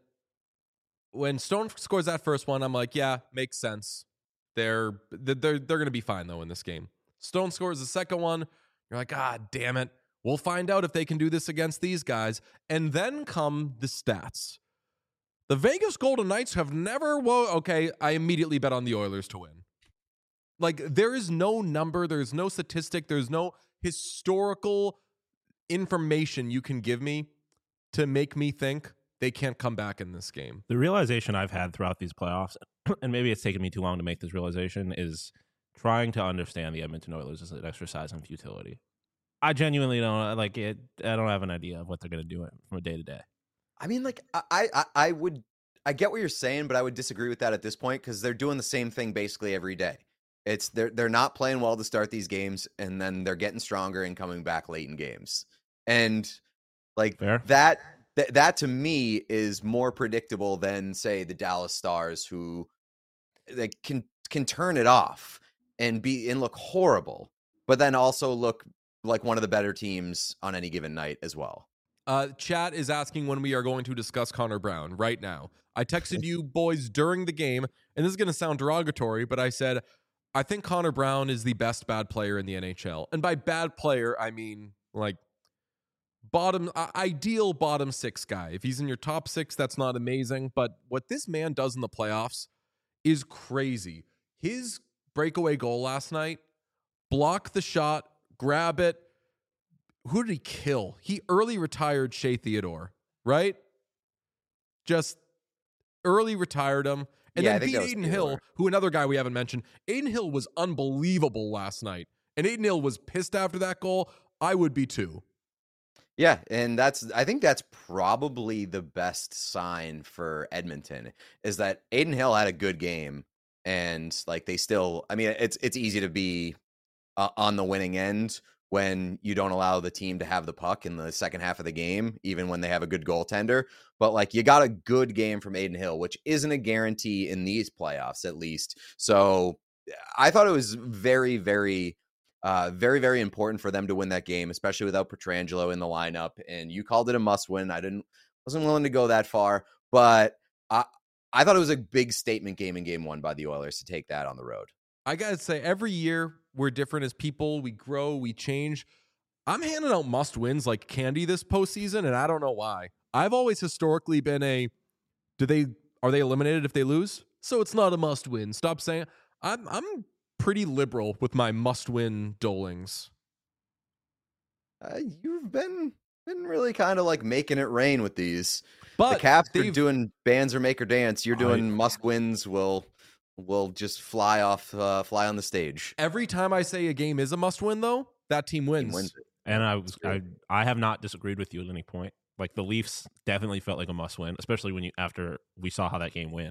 A: when Stone scores that first one, I'm like, yeah, makes sense. They're they're they're going to be fine though in this game. Stone scores the second one. You're like, ah, damn it. We'll find out if they can do this against these guys. And then come the stats. The Vegas Golden Knights have never, well, okay, I immediately bet on the Oilers to win. Like, there is no number, there's no statistic, there's no historical information you can give me to make me think they can't come back in this game.
C: The realization I've had throughout these playoffs, and maybe it's taken me too long to make this realization, is trying to understand the Edmonton Oilers as an exercise in futility. I genuinely don't like it. I don't have an idea of what they're going to do from a day to day.
B: I mean, like, I, I, I would, I get what you're saying, but I would disagree with that at this point because they're doing the same thing basically every day. It's they're they're not playing well to start these games, and then they're getting stronger and coming back late in games. And like
C: Fair.
B: that, th- that to me is more predictable than say the Dallas Stars, who like can can turn it off and be and look horrible, but then also look like one of the better teams on any given night as well.
A: Uh, chat is asking when we are going to discuss Connor Brown right now. I texted you boys during the game, and this is going to sound derogatory, but I said, I think Connor Brown is the best bad player in the N H L. And by bad player, I mean like bottom, uh, ideal bottom six guy. If he's in your top six, that's not amazing. But what this man does in the playoffs is crazy. His breakaway goal last night, block the shot, grab it. Who did he kill? He early retired Shea Theodore, right? just early retired him. And
B: Yeah, I
A: then
B: think
A: beat
B: that was
A: Aiden
B: Theodore.
A: Hill, who another guy we haven't mentioned. Aiden Hill was unbelievable last night. And Aiden Hill was pissed after that goal. I would be too.
B: Yeah, and that's I think that's probably the best sign for Edmonton is that Aiden Hill had a good game, and like they still. I mean, it's it's easy to be uh, on the winning end when you don't allow the team to have the puck in the second half of the game, even when they have a good goaltender. But like you got a good game from Aiden Hill, which isn't a guarantee in these playoffs, at least. So I thought it was very, very. Uh, very, very important for them to win that game, especially without Pietrangelo in the lineup. And you called it a must win. I didn't, wasn't willing to go that far, but I, I thought it was a big statement game in game one by the Oilers to take that on the road.
A: I got to say, every year we're different as people. We grow, we change. I'm handing out must wins like candy this postseason, and I don't know why. I've always historically been a, do they, are they eliminated if they lose? So it's not a must win. Stop saying, I'm, I'm, pretty liberal with my must-win dolings.
B: Uh, you've been been really kind of like making it rain with these.
A: But
B: the Caps are doing bands or make or dance. You're doing I, must wins. Will will just fly off, uh, fly on the stage.
A: Every time I say a game is a must-win, though, that team wins.
B: Team wins it.
C: And I was I I have not disagreed with you at any point. Like the Leafs definitely felt like a must-win, especially when you after we saw how that game went.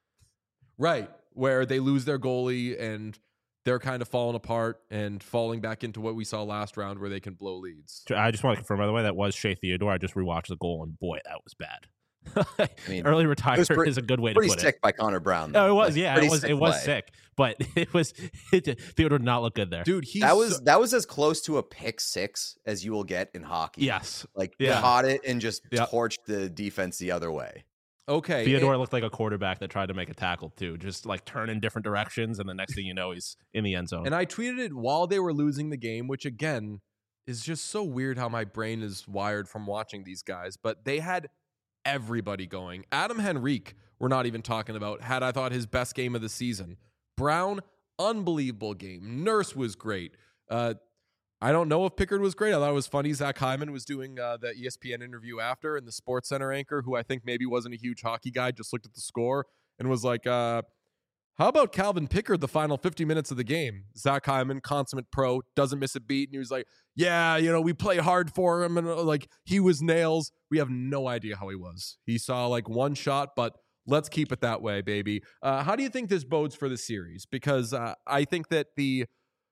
A: Right, where they lose their goalie and they're kind of falling apart and falling back into what we saw last round where they can blow leads.
C: I just want to confirm, by the way, that was Shea Theodore. I just rewatched the goal, and boy, that was bad. I mean, early retirement is a good way to put it.
B: Pretty sick by Connor Brown.
C: Though. No, it was, like, yeah, it was, it was play. sick, but it was it, Theodore did not look good there,
A: dude. He's
B: that was
A: so,
B: that was as close to a pick six as you will get in hockey.
C: Yes,
B: like
C: yeah.
B: caught it and just
C: yep.
B: torched the defense the other way.
A: Okay,
C: Theodore
A: it,
C: looked like a quarterback that tried to make a tackle too, just like turn in different directions, and the next thing you know, he's in the end zone.
A: And I tweeted it while they were losing the game, which again is just so weird how my brain is wired from watching these guys. But they had everybody going. Adam Henrique, we're not even talking about, had I thought his best game of the season. Brown, unbelievable game. Nurse was great. Uh, I don't know if Pickard was great. I thought it was funny. Zach Hyman was doing uh, the E S P N interview after, and the Sports Center anchor, who I think maybe wasn't a huge hockey guy, just looked at the score and was like, uh, how about Calvin Pickard the final fifty minutes of the game? Zach Hyman, consummate pro, doesn't miss a beat. And he was like, yeah, you know, we play hard for him. And uh, like, he was nails. We have no idea how he was. He saw like one shot, but let's keep it that way, baby. Uh, how do you think this bodes for the series? Because uh, I think that the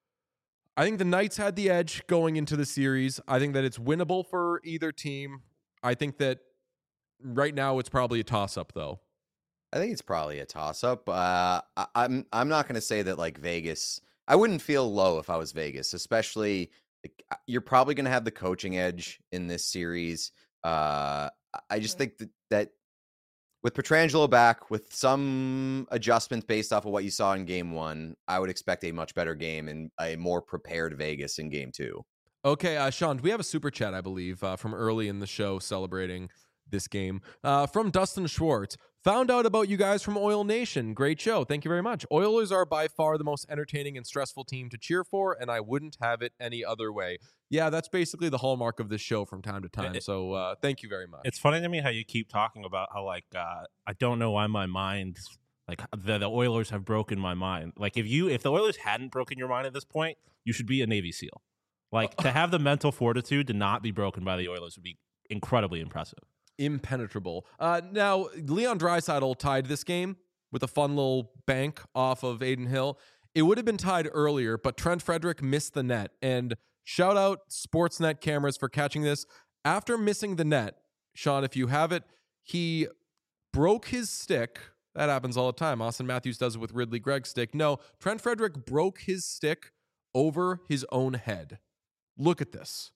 A: I think the Knights had the edge going into the series. I think that it's winnable for either team. I think that right now it's probably a toss-up, though.
B: I think it's probably a toss-up. Uh, I, I'm I'm not going to say that like Vegas. I wouldn't feel low if I was Vegas, especially like, you're probably going to have the coaching edge in this series. Uh, I just think that, that with Pietrangelo back, with some adjustments based off of what you saw in game one, I would expect a much better game and a more prepared Vegas in game two.
A: Okay, uh, Sean, we have a super chat, I believe, uh, from early in the show celebrating this game. Uh, from Dustin Schwartz. Found out about you guys from Oil Nation. Great show. Thank you very much. Oilers are by far the most entertaining and stressful team to cheer for, and I wouldn't have it any other way. Yeah, that's basically the hallmark of this show from time to time.
C: It,
A: so uh, thank you very much.
C: It's funny to me how you keep talking about how, like, uh, I don't know why my mind, like, the, the Oilers have broken my mind. Like, if you, if the Oilers hadn't broken your mind at this point, you should be a Navy SEAL. Like, to have the mental fortitude to not be broken by the Oilers would be incredibly impressive.
A: Impenetrable. Uh, now, Leon Draisaitl tied this game with a fun little bank off of Aiden Hill. It would have been tied earlier, but Trent Frederick missed the net. And shout out Sportsnet cameras for catching this. After missing the net, Sean, if you have it, he broke his stick. That happens all the time. Austin Matthews does it with Ridley Gregg's stick. No, Trent Frederick broke his stick over his own head. Look at this.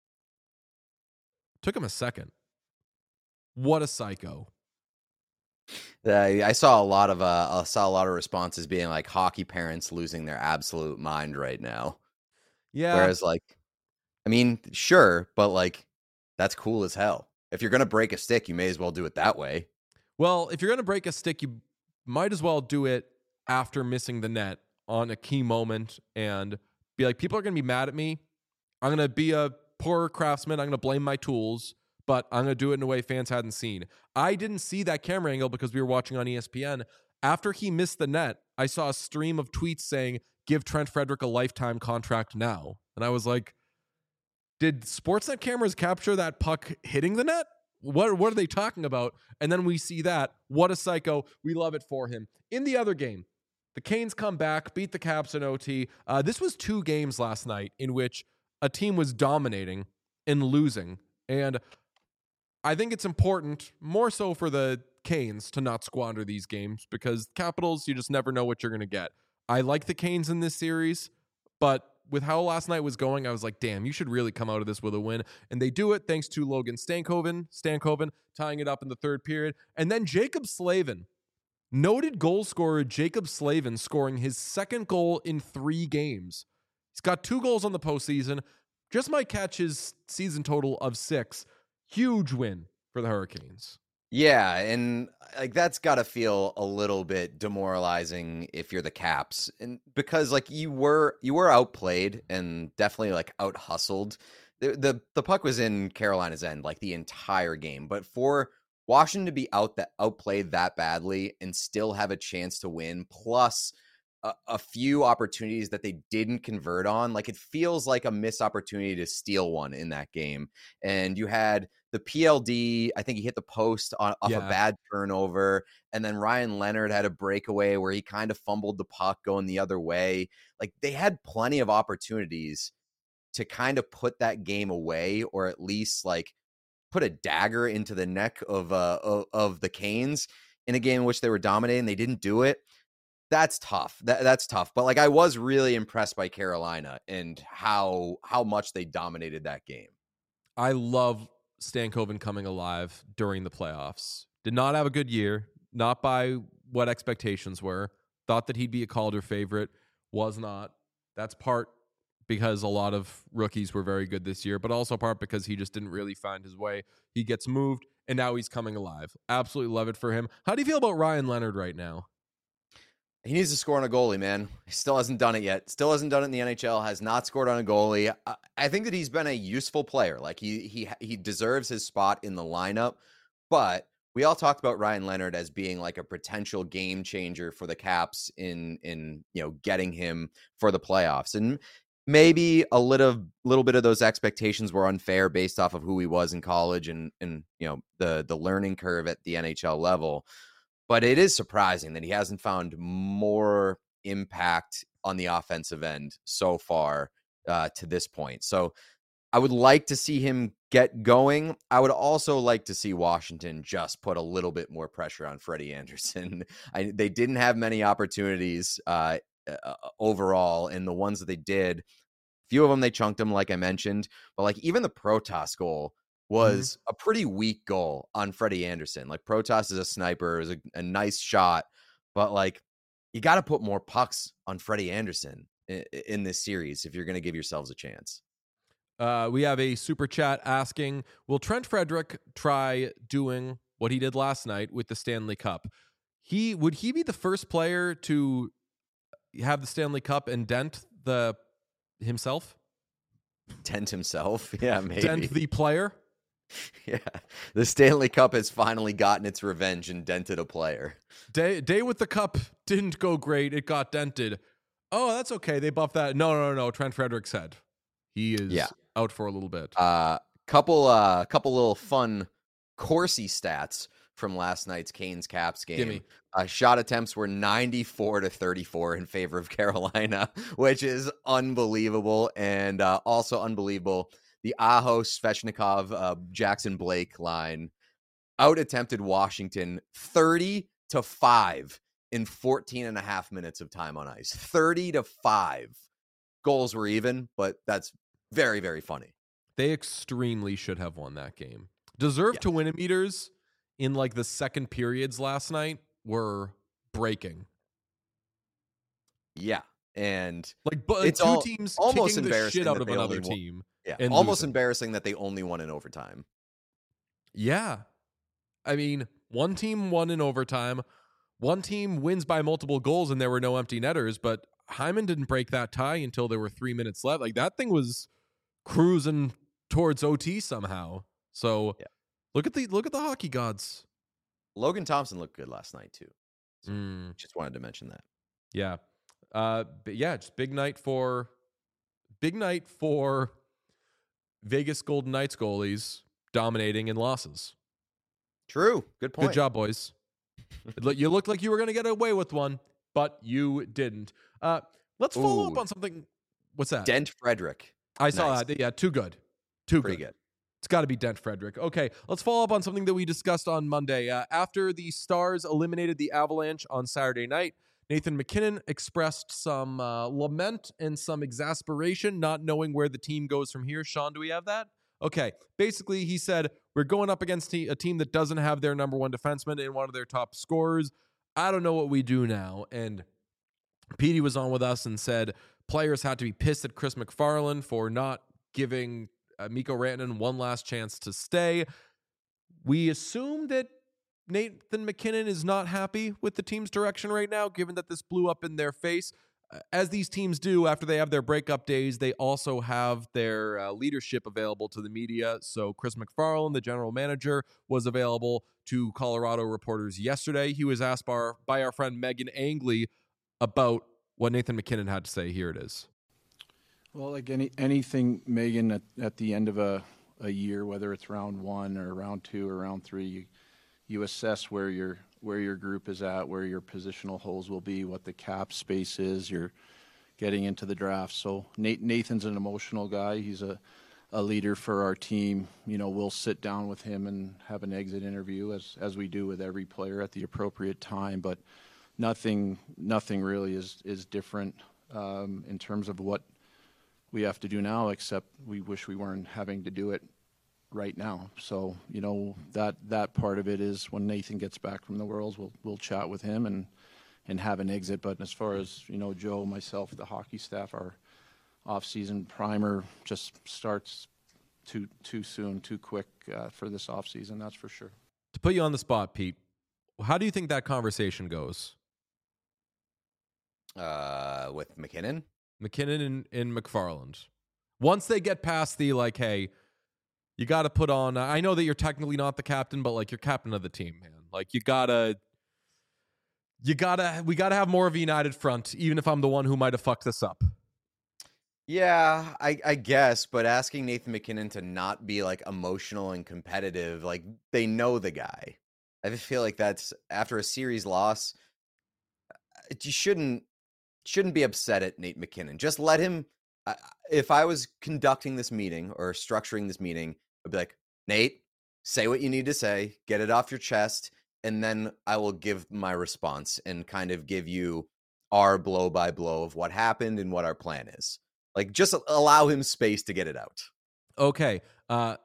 A: Took him a second. What a psycho.
B: Uh, I saw a lot of uh, I saw a lot of responses being like hockey parents losing their absolute mind right now.
A: Yeah.
B: Whereas like, I mean, sure, but like, that's cool as hell. If you're gonna break a stick, you may as well do it that way.
A: Well, if you're gonna break a stick, you might as well do it after missing the net on a key moment and be like, people are gonna be mad at me. I'm gonna be a poor craftsman. I'm gonna blame my tools. but I'm going to do it in a way fans hadn't seen. I didn't see that camera angle because we were watching on E S P N. After he missed the net, I saw a stream of tweets saying, give Trent Frederick a lifetime contract now. And I was like, did Sportsnet cameras capture that puck hitting the net? What, what are they talking about? And then we see that. What a psycho. We love it for him. In the other game, the Canes come back, beat the Caps in O T. Uh, this was two games last night in which a team was dominating and losing. And I think it's important, more so for the Canes, to not squander these games because Capitals, you just never know what you're going to get. I like the Canes in this series, but with how last night was going, I was like, damn, you should really come out of this with a win. And they do it thanks to Logan Stankoven, Stankoven tying it up in the third period. And then Jacob Slavin, noted goal scorer Jacob Slavin, scoring his second goal in three games. He's got two goals on the postseason. Just might catch his season total of six. Huge win for the Hurricanes.
B: Yeah, and like that's got to feel a little bit demoralizing if you're the Caps, and because like you were you were outplayed and definitely like out hustled. The, the the puck was in Carolina's end like the entire game, but for Washington to be out that outplayed that badly and still have a chance to win, plus a, a few opportunities that they didn't convert on, like it feels like a missed opportunity to steal one in that game. And you had the P L D, I think he hit the post on, off
A: Yeah.
B: a bad turnover. And then Ryan Leonard had a breakaway where he kind of fumbled the puck going the other way. Like they had plenty of opportunities to kind of put that game away, or at least like put a dagger into the neck of, uh, of, of the Canes in a game in which they were dominating. They didn't do it. That's tough. That, that's tough. But like, I was really impressed by Carolina and how, how much they dominated that game.
A: I love Stankoven coming alive during the playoffs. Did not have a good year, not by what expectations were. Thought that he'd be a Calder favorite, was not. That's part because a lot of rookies were very good this year, but also part because he just didn't really find his way. He gets moved, and now he's coming alive. Absolutely love it for him. How do you feel about Ryan Leonard right now?
B: He needs to score on a goalie, man. He still hasn't done it yet. Still hasn't done it in the N H L. Has not scored on a goalie. I, I think that he's been a useful player. Like he he he deserves his spot in the lineup. But we all talked about Ryan Leonard as being like a potential game changer for the Caps in in you know getting him for the playoffs. And maybe a little little bit of those expectations were unfair based off of who he was in college and and you know the the learning curve at the N H L level. But it is surprising that he hasn't found more impact on the offensive end so far uh, to this point. So I would like to see him get going. I would also like to see Washington just put a little bit more pressure on Freddie Anderson. I, they didn't have many opportunities uh, uh, overall, and the ones that they did, few of them they chunked him, like I mentioned. But like even the Protas goal was mm-hmm. a pretty weak goal on Freddie Anderson. Like Protas is a sniper, is a, a nice shot, but like you got to put more pucks on Freddie Anderson in, in this series if you're going to give yourselves a chance.
A: Uh, we have a super chat asking, will Trent Frederick try doing what he did last night with the Stanley Cup? He would he be the first player to have the Stanley Cup and dent the himself?
B: Dent himself? Yeah, maybe.
A: Dent the player?
B: Yeah, the Stanley Cup has finally gotten its revenge and dented a player.
A: Day day with the cup didn't go great. It got dented. Oh, that's okay. They buffed that. No, no, no. Trent Frederick said he is
B: yeah.
A: out for a little bit.
B: Uh, couple, uh, couple little fun Corsi stats from last night's Canes Caps game.
A: Gimme.
B: Uh, shot attempts were ninety-four to thirty-four in favor of Carolina, which is unbelievable, and uh, also unbelievable. The Aho, Svechnikov, uh, Jackson Blake line out attempted Washington thirty to five in fourteen and a half minutes of time on ice. thirty to five. Goals were even, but that's very, very funny.
A: They extremely should have won that game. Deserve
B: yes.
A: to win meters in like the second periods last night were breaking.
B: Yeah. And
A: like but
B: it's
A: two
B: all,
A: teams
B: almost
A: kicking the
B: embarrassing
A: shit out
B: that
A: of
B: they
A: another
B: only won-
A: team.
B: Yeah,
A: and
B: almost
A: losing.
B: embarrassing that they only won in overtime.
A: Yeah. I mean, one team won in overtime. One team wins by multiple goals and there were no empty netters, but Hyman didn't break that tie until there were three minutes left. Like that thing was cruising towards O T somehow. So
B: yeah.
A: Look at the look at the hockey gods.
B: Logan Thompson looked good last night too. So
A: Mm,
B: just wanted to mention that.
A: yeah, uh, but yeah, just big night for big night for Vegas Golden Knights goalies dominating in losses.
B: True. Good point.
A: Good job, boys. It look- you looked like you were going to get away with one, but you didn't. Uh, let's follow
B: Ooh.
A: up on something. What's that?
B: Dent Frederick.
A: I saw
B: Nice.
A: that. Yeah, too good. Too
B: Pretty
A: good.
B: good.
A: It's got to be Dent Frederick. Okay, let's follow up on something that we discussed on Monday. Uh, after the Stars eliminated the Avalanche on Saturday night, Nathan MacKinnon expressed some uh, lament and some exasperation, not knowing where the team goes from here. Sean, do we have that? Okay. Basically, he said, we're going up against a team that doesn't have their number one defenseman and one of their top scorers. I don't know what we do now. And Petey was on with us and said players had to be pissed at Chris McFarland for not giving uh, Mikko Rantanen one last chance to stay. We assume that Nathan MacKinnon is not happy with the team's direction right now, given that this blew up in their face. Uh, as these teams do after they have their breakup days, they also have their uh, leadership available to the media. So Chris McFarland, the general manager, was available to Colorado reporters yesterday. He was asked by our, by our friend Megan Angley about what Nathan MacKinnon had to say. Here it is.
E: Well, like any anything, Megan, at, at the end of a, a year, whether it's round one or round two or round three, you, you assess where your where your group is at, where your positional holes will be, what the cap space is. You're getting into the draft. So Nate, Nathan's an emotional guy. He's a, a leader for our team. You know, we'll sit down with him and have an exit interview as as we do with every player at the appropriate time. But nothing nothing really is is different um, in terms of what we have to do now, except we wish we weren't having to do it right now. So, you know, that that part of it is when Nathan gets back from the Worlds, we'll we'll chat with him and and have an exit. But as far as, you know, Joe, myself, the hockey staff, our off-season primer just starts too too soon, too quick uh, for this off-season, that's for sure.
A: To put you on the spot, Pete, how do you think that conversation goes?
B: Uh, with MacKinnon?
A: MacKinnon and, and McFarland. Once they get past the, like, hey, you got to put on, I know that you're technically not the captain, but, like, you're captain of the team, man. Like, you got to, you got to, we got to have more of a united front, even if I'm the one who might have fucked this up.
B: Yeah, I, I guess, but asking Nathan MacKinnon to not be, like, emotional and competitive, like, they know the guy. I just feel like that's, after a series loss, you shouldn't, shouldn't be upset at Nate MacKinnon. Just let him, uh, if I was conducting this meeting or structuring this meeting, I'd be like, Nate, say what you need to say, get it off your chest, and then I will give my response and kind of give you our blow by blow of what happened and what our plan is. Like, just allow him space to get it out.
A: Okay. Uh,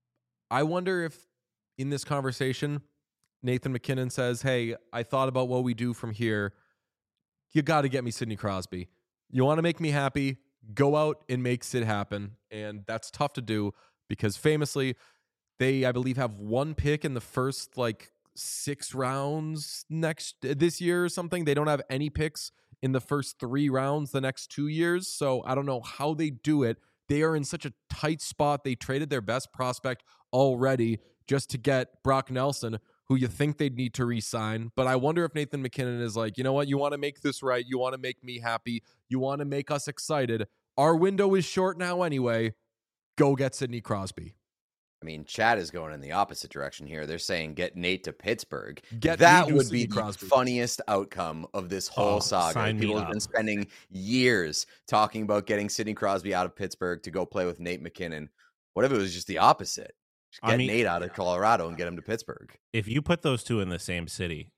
A: I wonder if in this conversation, Nathan MacKinnon says, hey, I thought about what we do from here. You got to get me Sidney Crosby. You want to make me happy, go out and make Sid happen. And that's tough to do because famously, they, I believe, have one pick in the first like six rounds next this year or something. They don't have any picks in the first three rounds the next two years. So I don't know how they do it. They are in such a tight spot. They traded their best prospect already just to get Brock Nelson, who you think they'd need to re-sign. But I wonder if Nathan MacKinnon is like, you know what? You want to make this right. You want to make me happy. You want to make us excited. Our window is short now anyway. Go get Sidney Crosby.
B: I mean, Chad is going in the opposite direction here. They're saying get Nate to Pittsburgh.
A: Get
B: that
A: me to
B: would
A: Sidney
B: be the
A: Crosby.
B: funniest outcome of this whole
C: Oh,
B: saga.
C: sign me
B: People have
C: up.
B: been spending years talking about getting Sidney Crosby out of Pittsburgh to go play with Nate MacKinnon. What if it was just the opposite? Just
C: I
B: get
C: mean-
B: Nate out of Colorado and get him to Pittsburgh.
C: If you put those two in the same city,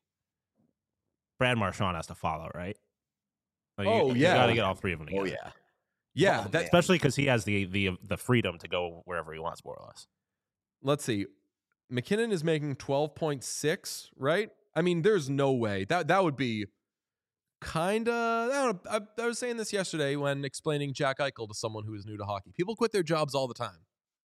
C: Brad Marchand has to follow, right? Like, you-
A: Oh,
C: you
A: yeah.
C: got to get all three of them together.
B: Oh, yeah.
A: Yeah,
B: Oh,
A: that,
B: man.
C: Especially because he has the the the freedom to go wherever he wants, more or less.
A: let's see. McKinnon is making twelve point six, right? I mean, there's no way. That that would be kind of, I don't know. I, I was saying this yesterday when explaining Jack Eichel to someone who is new to hockey. People quit their jobs all the time.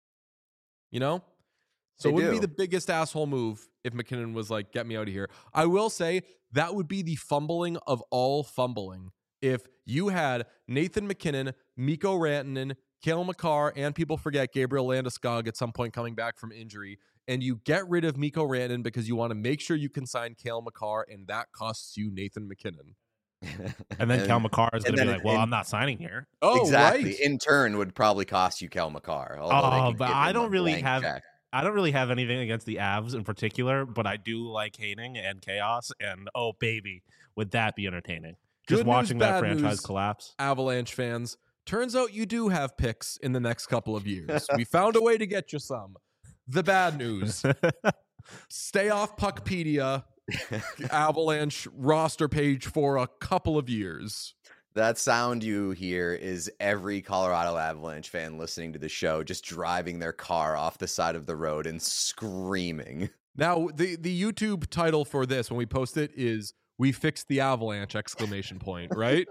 A: You know? So
B: They
A: it wouldn't be
B: do.
A: the biggest asshole move if McKinnon was like, get me out of here. I will say that would be the fumbling of all fumbling. If you had Nathan MacKinnon, Mikko Rantanen, Cale Makar, and people forget Gabriel Landeskog at some point coming back from injury, and you get rid of Mikko Rantanen because you want to make sure you can sign Cale Makar, and that costs you Nathan McKinnon.
C: And then Cal Makar is going to be
B: then
C: like, well,
B: in-
C: I'm not signing here.
A: Oh,
B: exactly.
A: right.
B: In turn, would probably cost you Kel McCarr. although they
C: Oh,
B: could
C: but
B: give
C: I
B: him
C: don't
B: a
C: really
B: blank
C: have
B: check.
C: I don't really have anything against the Avs in particular, but I do like hating and chaos. And oh, baby, would that be entertaining? Just
A: Good news,
C: watching that
A: bad
C: franchise
A: news.
C: collapse.
A: Avalanche fans, turns out you do have picks in the next couple of years. We found a way to get you some. The bad news: stay off Puckpedia Avalanche roster page for a couple of years.
B: That sound you hear is every Colorado Avalanche fan listening to the show just driving their car off the side of the road and screaming.
A: Now, the the YouTube title for this when we post it is "We fixed the Avalanche!" exclamation point, right?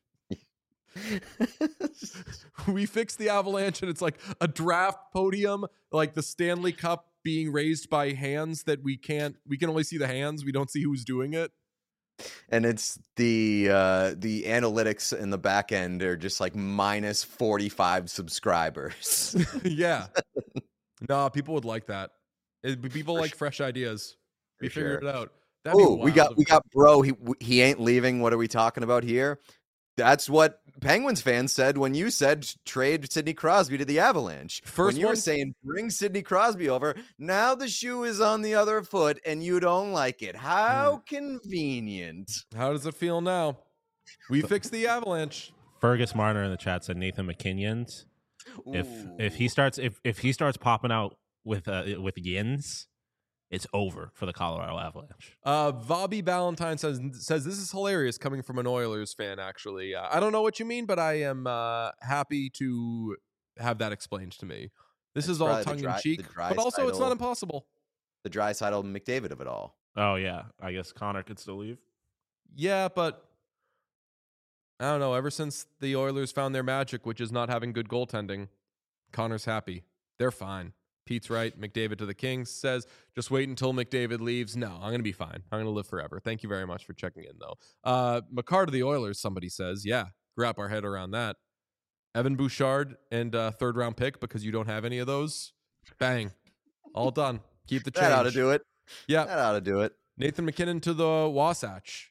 A: We fixed the Avalanche, and it's like a draft podium, like the Stanley Cup being raised by hands that we can't, we can only see the hands. We don't see who's doing it.
B: And it's the uh, the analytics in the back end are just like minus forty-five subscribers.
A: Yeah. No, people would like that. It'd be people
B: For
A: like
B: su-
A: fresh ideas. We
B: for
A: figured
B: sure.
A: it out. That'd be
B: Oh, we
A: wild
B: got
A: if-
B: we got bro. He he ain't leaving. What are we talking about here? That's what Penguins fans said when you said trade Sidney Crosby to the Avalanche.
A: First
B: when you
A: one-
B: were saying bring Sidney Crosby over, now the shoe is on the other foot and you don't like it. How convenient.
A: How does it feel now? We fixed the Avalanche.
C: Fergus Marner in the chat said Nathan McKinnon's. If if he
B: Ooh.
C: starts if if he starts popping out with uh, with yins, it's over for the Colorado Avalanche.
A: Uh, Bobby Ballantyne says says this is hilarious coming from an Oilers fan. Actually, uh, I don't know what you mean, but I am uh, happy to have that explained to me. This
B: It's
A: is all
B: probably the
A: tongue in
B: dry-
A: cheek,
B: the
A: but also it's
B: Draisaitl-
A: not impossible.
B: the Draisaitl McDavid of it all.
C: Oh yeah, I guess Connor could still leave.
A: Yeah, but I don't know. Ever since the Oilers found their magic, which is not having good goaltending, Connor's happy. They're fine. Pete's right. McDavid to the Kings says, just wait until McDavid leaves. No, I'm going to be fine. I'm going to live forever. Thank you very much for checking in, though. Uh, Makar to the Oilers, somebody says. Yeah, wrap our head around that. Evan Bouchard and uh, third round pick because you don't have any of those. Bang. All done. Keep the change.
B: That ought to do it.
A: Yeah.
B: That ought to do it.
A: Nathan McKinnon to the Wasatch.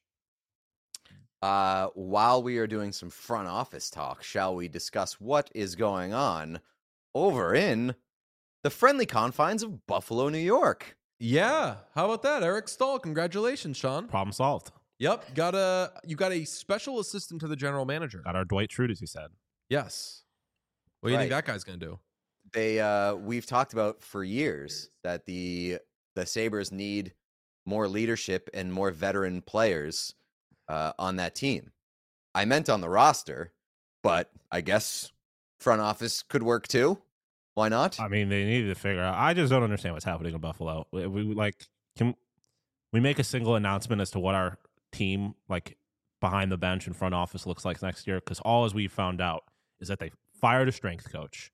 B: Uh, while we are doing some front office talk, shall we discuss what is going on over in the friendly confines of Buffalo, New York?
A: Yeah. How about that? Eric Stahl. Congratulations, Sean.
C: Problem solved.
A: Yep. Got a you got a special assistant to the general manager.
C: Got our Dwight Schrute, as he said.
A: Yes. What do you think
B: Right.
A: that guy's gonna do?
B: They uh, we've talked about for years that the the Sabres need more leadership and more veteran players uh, on that team. I meant on the roster, but I guess front office could work too. Why not?
C: I mean, they needed to figure out. I just don't understand what's happening in Buffalo. We, we like can we make a single announcement as to what our team like behind the bench and front office looks like next year? Because all as we found out is that they fired a strength coach.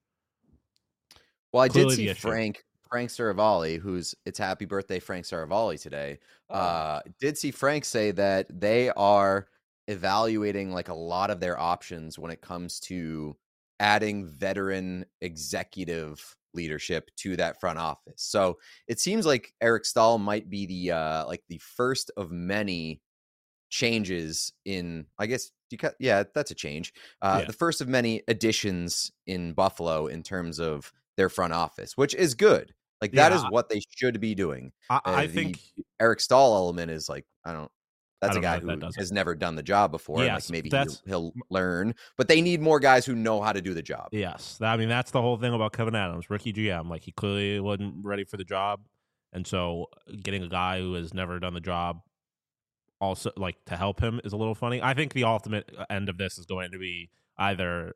B: Well, I
C: Clearly
B: did
C: the
B: see
C: issue.
B: Frank Frank Saravalli, who's it's happy birthday Frank Saravalli today.
A: Oh.
B: Uh, did see Frank say that they are evaluating like a lot of their options when it comes to adding veteran executive leadership to that front office. So it seems like Eric Stahl might be the uh, like the first of many changes in, I guess you cut, yeah, that's a change. Uh,
C: Yeah.
B: The first of many additions in Buffalo in terms of their front office, which is good. Like that is
C: Yeah.
B: what they should be doing.
C: I,
B: Uh,
C: I
B: the
C: think
B: Eric Stahl element is like, I don't, that's
C: I
B: a
C: don't know
B: guy
C: if that
B: who
C: does it.
B: has never done the job before. and,
C: Yes,
B: like maybe
C: that's-
B: he'll, he'll learn, but they need more guys who know how to do the job.
C: yes. I mean, that's the whole thing about Kevin Adams, rookie G M. Like he clearly wasn't ready for the job, and so getting a guy who has never done the job also like to help him is a little funny. I think the ultimate end of this is going to be either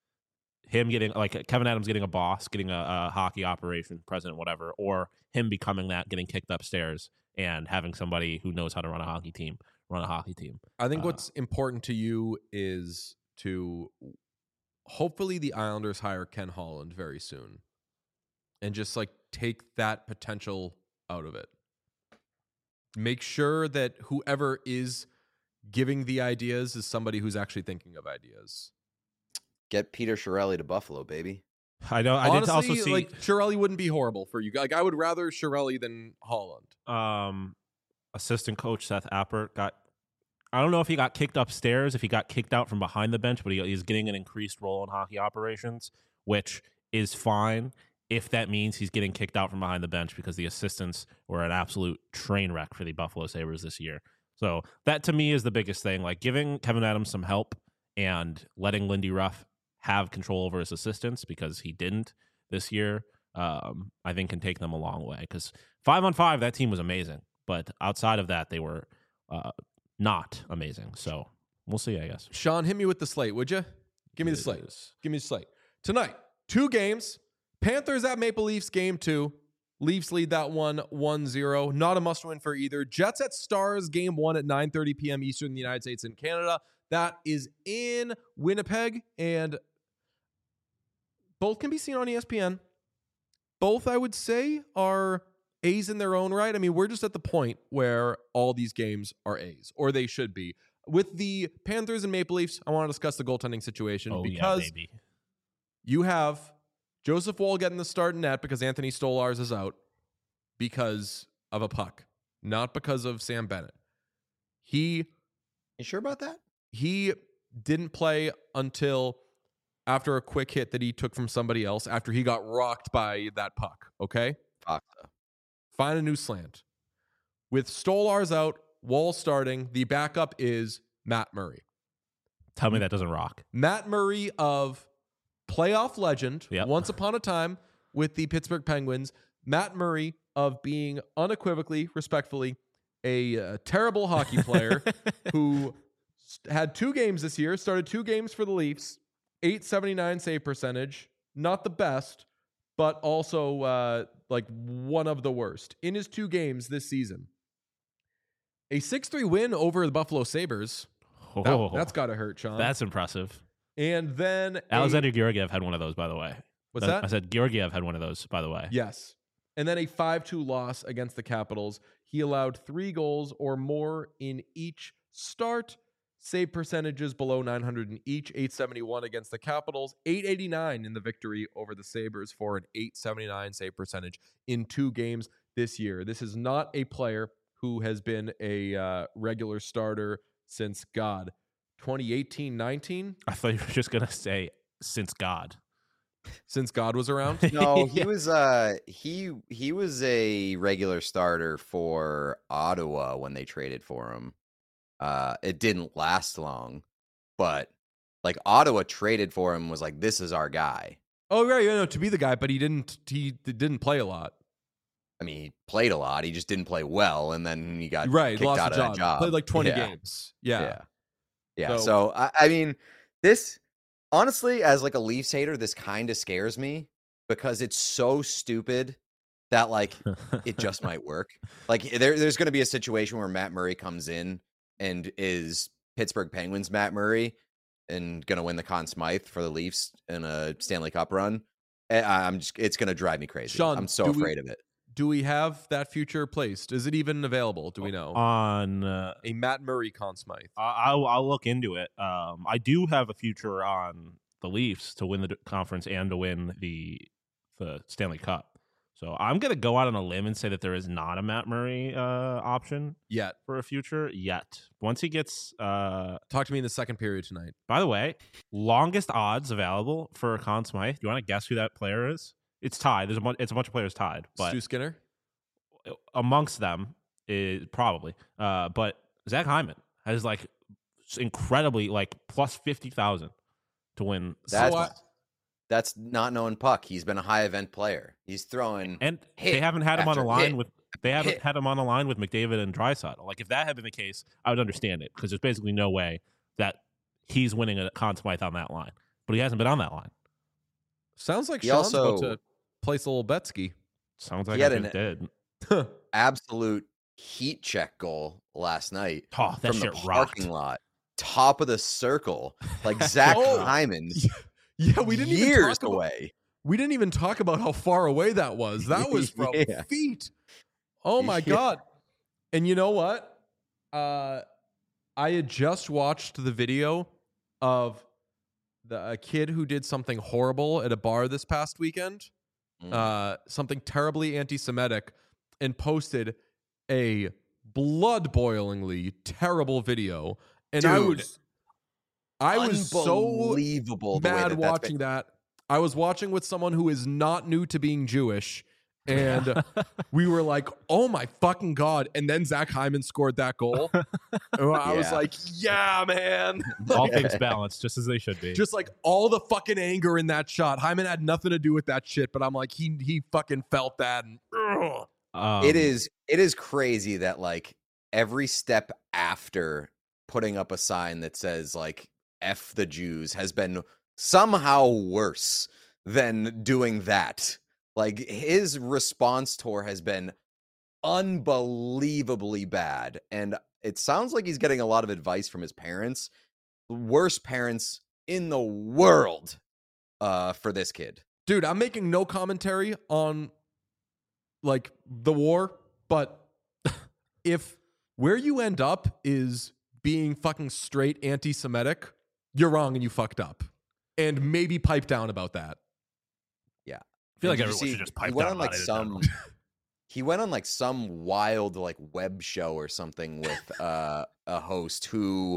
C: him getting like Kevin Adams getting a boss, getting a, a hockey operation president, whatever, or him becoming that, getting kicked upstairs and having somebody who knows how to run a hockey team run a hockey team.
A: I think
C: Uh,
A: what's important to you is to hopefully the Islanders hire Ken Holland very soon and just like take that potential out of it. Make sure that whoever is giving the ideas is somebody who's actually thinking of ideas.
B: Get Peter Chiarelli to Buffalo, baby.
C: I know. I
A: Honestly,
C: did also see
A: like Chiarelli wouldn't be horrible for you. Like I would rather Chiarelli than Holland.
C: um, assistant coach Seth Appert got. I don't know if he got kicked upstairs, if he got kicked out from behind the bench, but he, he's getting an increased role in hockey operations, which is fine if that means he's getting kicked out from behind the bench because the assistants were an absolute train wreck for the Buffalo Sabres this year. So that to me is the biggest thing. Like giving Kevin Adams some help and letting Lindy Ruff have control over his assistants because he didn't this year, um, I think can take them a long way. Because five on five, that team was amazing. But outside of that, they were uh, not amazing. So we'll see, I guess.
A: Sean, hit me with the slate, would you? Give me the slate.
C: Yes.
A: Give me the slate. Tonight, two games. Panthers at Maple Leafs, game two. Leafs lead that one one zero. Not a must-win for either. Jets at Stars, game one at nine thirty p.m. Eastern in the United States and Canada. That is in Winnipeg, and both can be seen on E S P N. Both, I would say, are A's in their own right. I mean, we're just at the point where all these games are A's, or they should be. With the Panthers and Maple Leafs, I want to discuss the goaltending situation
C: Oh,
A: because
C: yeah, baby.
A: you have Joseph Woll getting the start in net because Anthony Stolarz is out because of a puck, not because of Sam Bennett. He
B: You sure about that?
A: he didn't play until after a quick hit that he took from somebody else after he got rocked by that puck, okay?
B: Fuck.
A: Find a new slant. With Stolarz out, Woll starting, the backup is Matt Murray.
C: Tell me that doesn't rock.
A: Matt Murray of playoff legend,
C: Yep.
A: once upon a time with the Pittsburgh Penguins. Matt Murray of being unequivocally, respectfully, a, uh terrible hockey player who st- had two games this year, started two games for the Leafs, eight seventy-nine save percentage, not the best, but also uh, like one of the worst in his two games this season. A six three win over the Buffalo Sabres. That,
C: Oh,
A: that's got to hurt, Sean.
C: that's impressive.
A: and then a-
C: Alexander Georgiev had one of those, by the way.
A: What's
C: That-
A: that?
C: I said Georgiev had one of those, by the way.
A: Yes. And then a five two loss against the Capitals. He allowed three goals or more in each start. Save percentages below nine hundred in each. eight seventy-one against the Capitals. eight eighty-nine in the victory over the Sabres for an eight seventy-nine save percentage in two games this year. This is not a player who has been a uh, regular starter since, God, twenty eighteen nineteen?
C: I thought you were just going to say, since God.
A: Since God was around?
B: No, he
C: Yeah.
B: was uh he he was a regular starter for Ottawa when they traded for him. Uh it didn't last long, but like Ottawa traded for him was like, this is our guy.
A: Oh, right. Yeah, no, to be the guy, but he didn't he didn't play a lot.
B: I mean, he played a lot, he just didn't play well, and then he got
A: Right,
B: kicked
A: lost
B: out
A: the
B: of
A: job.
B: that job.
A: Played like twenty
B: Yeah.
A: games. Yeah.
B: Yeah. Yeah.
A: So-
B: So, I, I mean, this honestly, as like a Leafs hater, this kind of scares me because it's so stupid that like it just might work. Like there, there's going to be a situation where Matt Murray comes in and is Pittsburgh Penguins Matt Murray and going to win the Conn Smythe for the Leafs in a Stanley Cup run. And I'm just, it's going to drive me crazy.
A: Sean,
B: I'm so
A: do we-
B: afraid of it.
A: Do we have that future placed? Is it even available? Do we know?
C: On, uh,
A: a Matt Murray Conn Smythe.
C: I- I'll, I'll look into it. Um, I do have a future on the Leafs to win the d- conference and to win the the Stanley Cup. So I'm going to go out on a limb and say that there is not a Matt Murray uh, option
A: Yet.
C: for a future yet. Once he gets, uh,
A: Talk to me in the second period tonight.
C: by the way, longest odds available for Conn Smythe. Do you want to guess who that player is? It's tied. There's a bunch, it's a bunch of players tied, but
A: Stu Skinner?
C: amongst them is probably. Uh, but Zach Hyman has like s- incredibly like plus fifty thousand to win.
B: That's,
A: So I-
B: that's not knowing puck. He's been a high event player. He's throwing.
C: And
B: hit
C: they haven't had him on a
B: after
C: line
B: hit
C: with they haven't
B: hit.
C: had him on a line with McDavid and Draisaitl. Like if that had been the case, I would understand it because there's basically no way that he's winning a Conn Smythe on that line. But he hasn't been on that line.
A: Sounds like
B: He
A: Sean's about
B: also-
A: to place a little Betsky.
C: Sounds
B: He
C: like
B: had
C: I
B: an-
C: just did.
B: absolute heat check goal last night
C: Oh, that
B: from the
C: shit rocked.
B: parking lot, top of the circle, like Zach
A: Oh.
B: Hyman,
A: Yeah, we didn't even
B: years
A: talk about,
B: away.
A: we didn't even talk about how far away that was. That was from
B: Yeah.
A: feet. Oh my
B: Yeah.
A: god. And you know what? Uh I had just watched the video of the a kid who did something horrible at a bar this past weekend,
B: Mm.
A: uh, something terribly anti-Semitic, and posted a blood-boilingly terrible video. And I
B: Dude,
A: was, I was so
B: unbelievable the way
A: mad
B: that that's
A: watching
B: been-
A: that. I was watching with someone who is not new to being Jewish, and we were like, "Oh my fucking god!" And then Zach Hyman scored that goal. And I was
B: Yeah.
A: like, "Yeah, man!"
C: All things balanced, just as they should be.
A: Just like all the fucking anger in that shot. Hyman had nothing to do with that shit, but I'm like, he he fucking felt that. And, ugh.
C: Um,
B: it is it is crazy that like every step after putting up a sign that says like F the Jews has been somehow worse than doing that. Like his response tour has been unbelievably bad, and it sounds like he's getting a lot of advice from his parents, worst parents in the world, uh for this kid.
A: Dude, I'm making no commentary on like the war, but if where you end up is being fucking straight anti-Semitic, you're wrong and you fucked up. And maybe pipe down about that.
C: I feel like
B: Did you
C: everyone
B: see-
C: should just
B: he
C: pipe
B: went
C: down
B: on like
C: about it in
B: some
C: general.
B: he went on like some wild like web show or something with uh a host who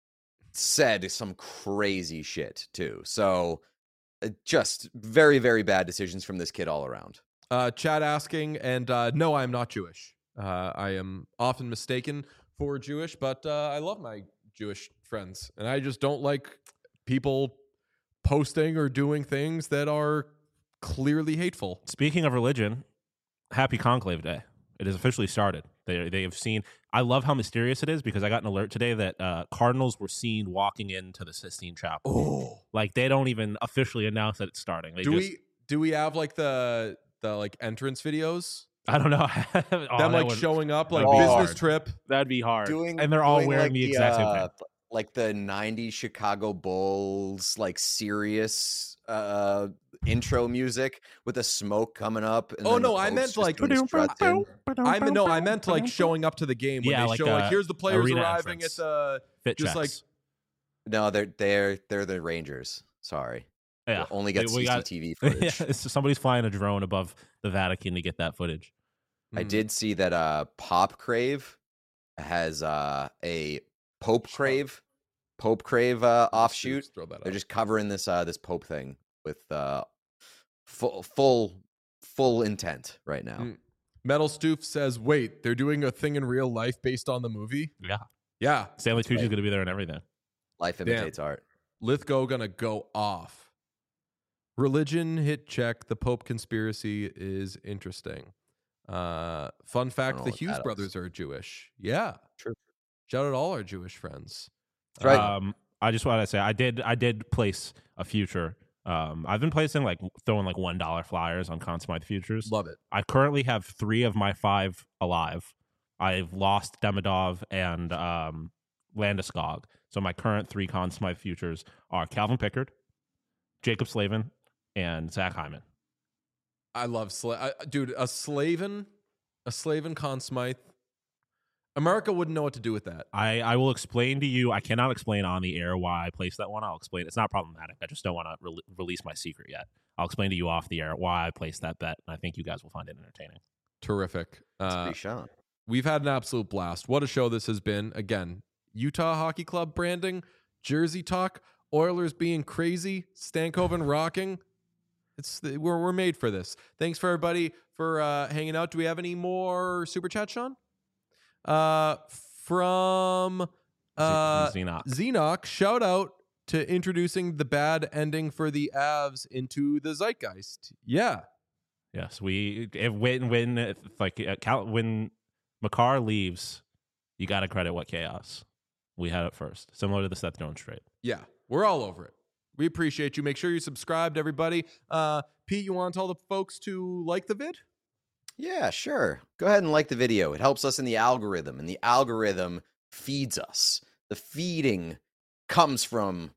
B: said some crazy shit too. So uh, just very very bad decisions from this kid all around.
A: Uh, Chad asking, and uh, no, I am not Jewish. Uh, I am often mistaken for Jewish, but uh, I love my Jewish friends, and I just don't like people posting or doing things that are clearly hateful.
C: Speaking of religion, happy Conclave Day. It has officially started. They they have seen. I love how mysterious it is because I got an alert today that uh, cardinals were seen walking into the Sistine Chapel.
A: Oh,
C: Like they don't even officially announce that it's starting. They
A: do
C: just,
A: we do we have like the the like entrance videos?
C: I don't know. Oh,
A: Them
C: that
A: like
C: would-
A: showing up like
C: that'd be
A: business
C: hard.
A: trip.
C: That'd be hard.
B: Doing
C: and they're all
B: doing,
C: wearing
B: like,
C: the exact same
B: uh,
C: thing.
B: like the nineties Chicago Bulls like serious uh intro music with the smoke coming up. And
A: Oh,
B: then the
A: no, I
B: Pope's
A: meant,
B: just
A: like-
B: doing struts in.
A: I mean, no, I meant like showing up to the game when
C: Yeah,
A: they
C: like,
A: show like
C: uh,
A: here's the players
C: arena
A: arriving
C: entrance.
A: at the
C: Fit
A: just
C: checks.
A: like-
B: No, they're they're they're the Rangers. Sorry.
C: yeah.
B: We'll only get
C: We got-
B: C C T V
C: yeah,
B: footage.
C: it's- somebody's flying a drone above the Vatican to get that footage.
B: I
A: Mm.
B: did see that uh Pop Crave has uh a Pope Crave Pope Crave uh offshoot.
A: Just throw that
B: They're
A: up.
B: just covering this uh this Pope thing with uh full full full intent right now.
A: Mm. Metal Stoof says, "Wait, they're doing a thing in real life based on the movie."
C: Yeah.
A: Yeah,
C: Stanley Tucci's going to be there and everything.
B: Life
A: Damn.
B: imitates art.
A: Lithgow gonna go off. Religion hit check. The Pope conspiracy is interesting. Uh, fun fact:
B: know
A: the
B: what
A: Hughes
B: that is.
A: brothers are Jewish. Yeah,
B: True.
A: Shout out all our Jewish friends.
B: That's right.
C: Um, I just want to say I did I did place a future. Um, I've been placing like throwing like one dollar flyers on Conn Smythe futures.
A: Love it.
C: I currently have three of my five alive. I've lost Demidov and um, Landeskog. So my current three Conn Smythe futures are Calvin Pickard, Jacob Slavin, and Zach Hyman.
A: I love Sla- I, dude. A Slavin, a Slavin Conn Smythe. America wouldn't know what to do with that.
C: I, I will explain to you. I cannot explain on the air why I placed that one. I'll explain. It's not problematic. I just don't want to re- release my secret yet. I'll explain to you off the air why I placed that bet, and I think you guys will find it entertaining.
A: Terrific.
B: It's
A: Uh,
B: pretty Sean.
A: we've had an absolute blast. What a show this has been. Again, Utah Hockey Club branding, Jersey talk, Oilers being crazy, Stankoven rocking. It's we're we're made for this. Thanks for everybody for uh, hanging out. Do we have any more super chat, Sean? Uh, from uh,
C: Xenox.
A: Xenoc, shout out to introducing the bad ending for the Avs into the zeitgeist. Yeah,
C: Yes, we if when when if, like uh, Cal, when Makar leaves, you got to credit what chaos. We had it first, similar to the Seth Jones trade.
A: yeah, we're all over it. We appreciate you. Make sure you subscribed, everybody. Uh, Pete, you want to tell the folks to like the vid?
B: Yeah, sure. Go ahead and like the video. It helps us in the algorithm, and the algorithm feeds us. The feeding comes from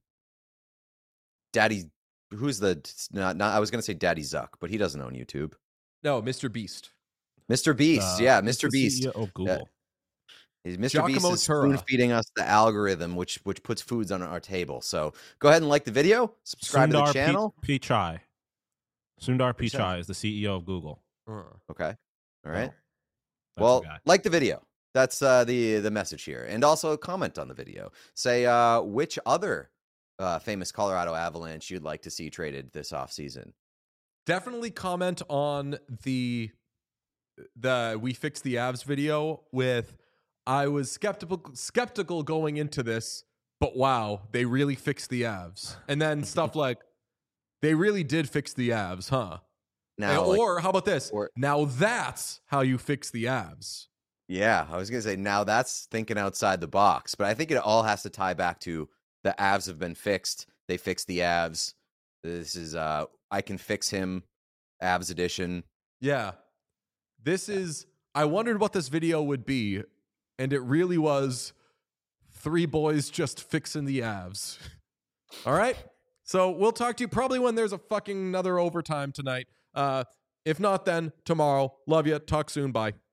B: Daddy. Who's the not? not I was going to say Daddy Zuck, but he doesn't own YouTube.
A: No, Mister Beast.
B: Mister Beast.
C: Uh,
B: yeah,
C: it's
B: Mister
C: the
B: Beast.
C: C E O of Google.
B: He's Mister Beast
A: Giacomo
B: is spoon
A: Tura.
B: feeding us the algorithm, which which puts foods on our table. So go ahead and like the video, subscribe to
C: Sundar
B: the channel.
C: P- Pichai. Sundar
B: What'd you say?
C: Pichai is the C E O of Google.
A: Uh,
B: Okay, all right.
C: That's
B: Well,
C: the guy.
B: like the video. That's uh, the the message here, and also comment on the video. Say uh, which other uh, famous Colorado Avalanche you'd like to see traded this offseason.
A: definitely comment on the the we fixed the Avs video with I was skeptical skeptical going into this, but wow, they really fixed the Avs. And then stuff like they really did fix the Avs, huh?
B: Now,
A: And-
B: like-
A: or how about this?
B: or-
A: Now that's how you fix the Avs.
B: yeah, I was gonna say now that's thinking outside the box, but I think it all has to tie back to the Avs have been fixed. They fixed the Avs. This is uh, I can fix him, Avs edition.
A: Yeah. This is I wondered what this video would be, and it really was three boys just fixing the Avs. All right? So we'll talk to you probably when there's a fucking another overtime tonight. Uh, if not, then tomorrow. Love you. Talk soon. Bye.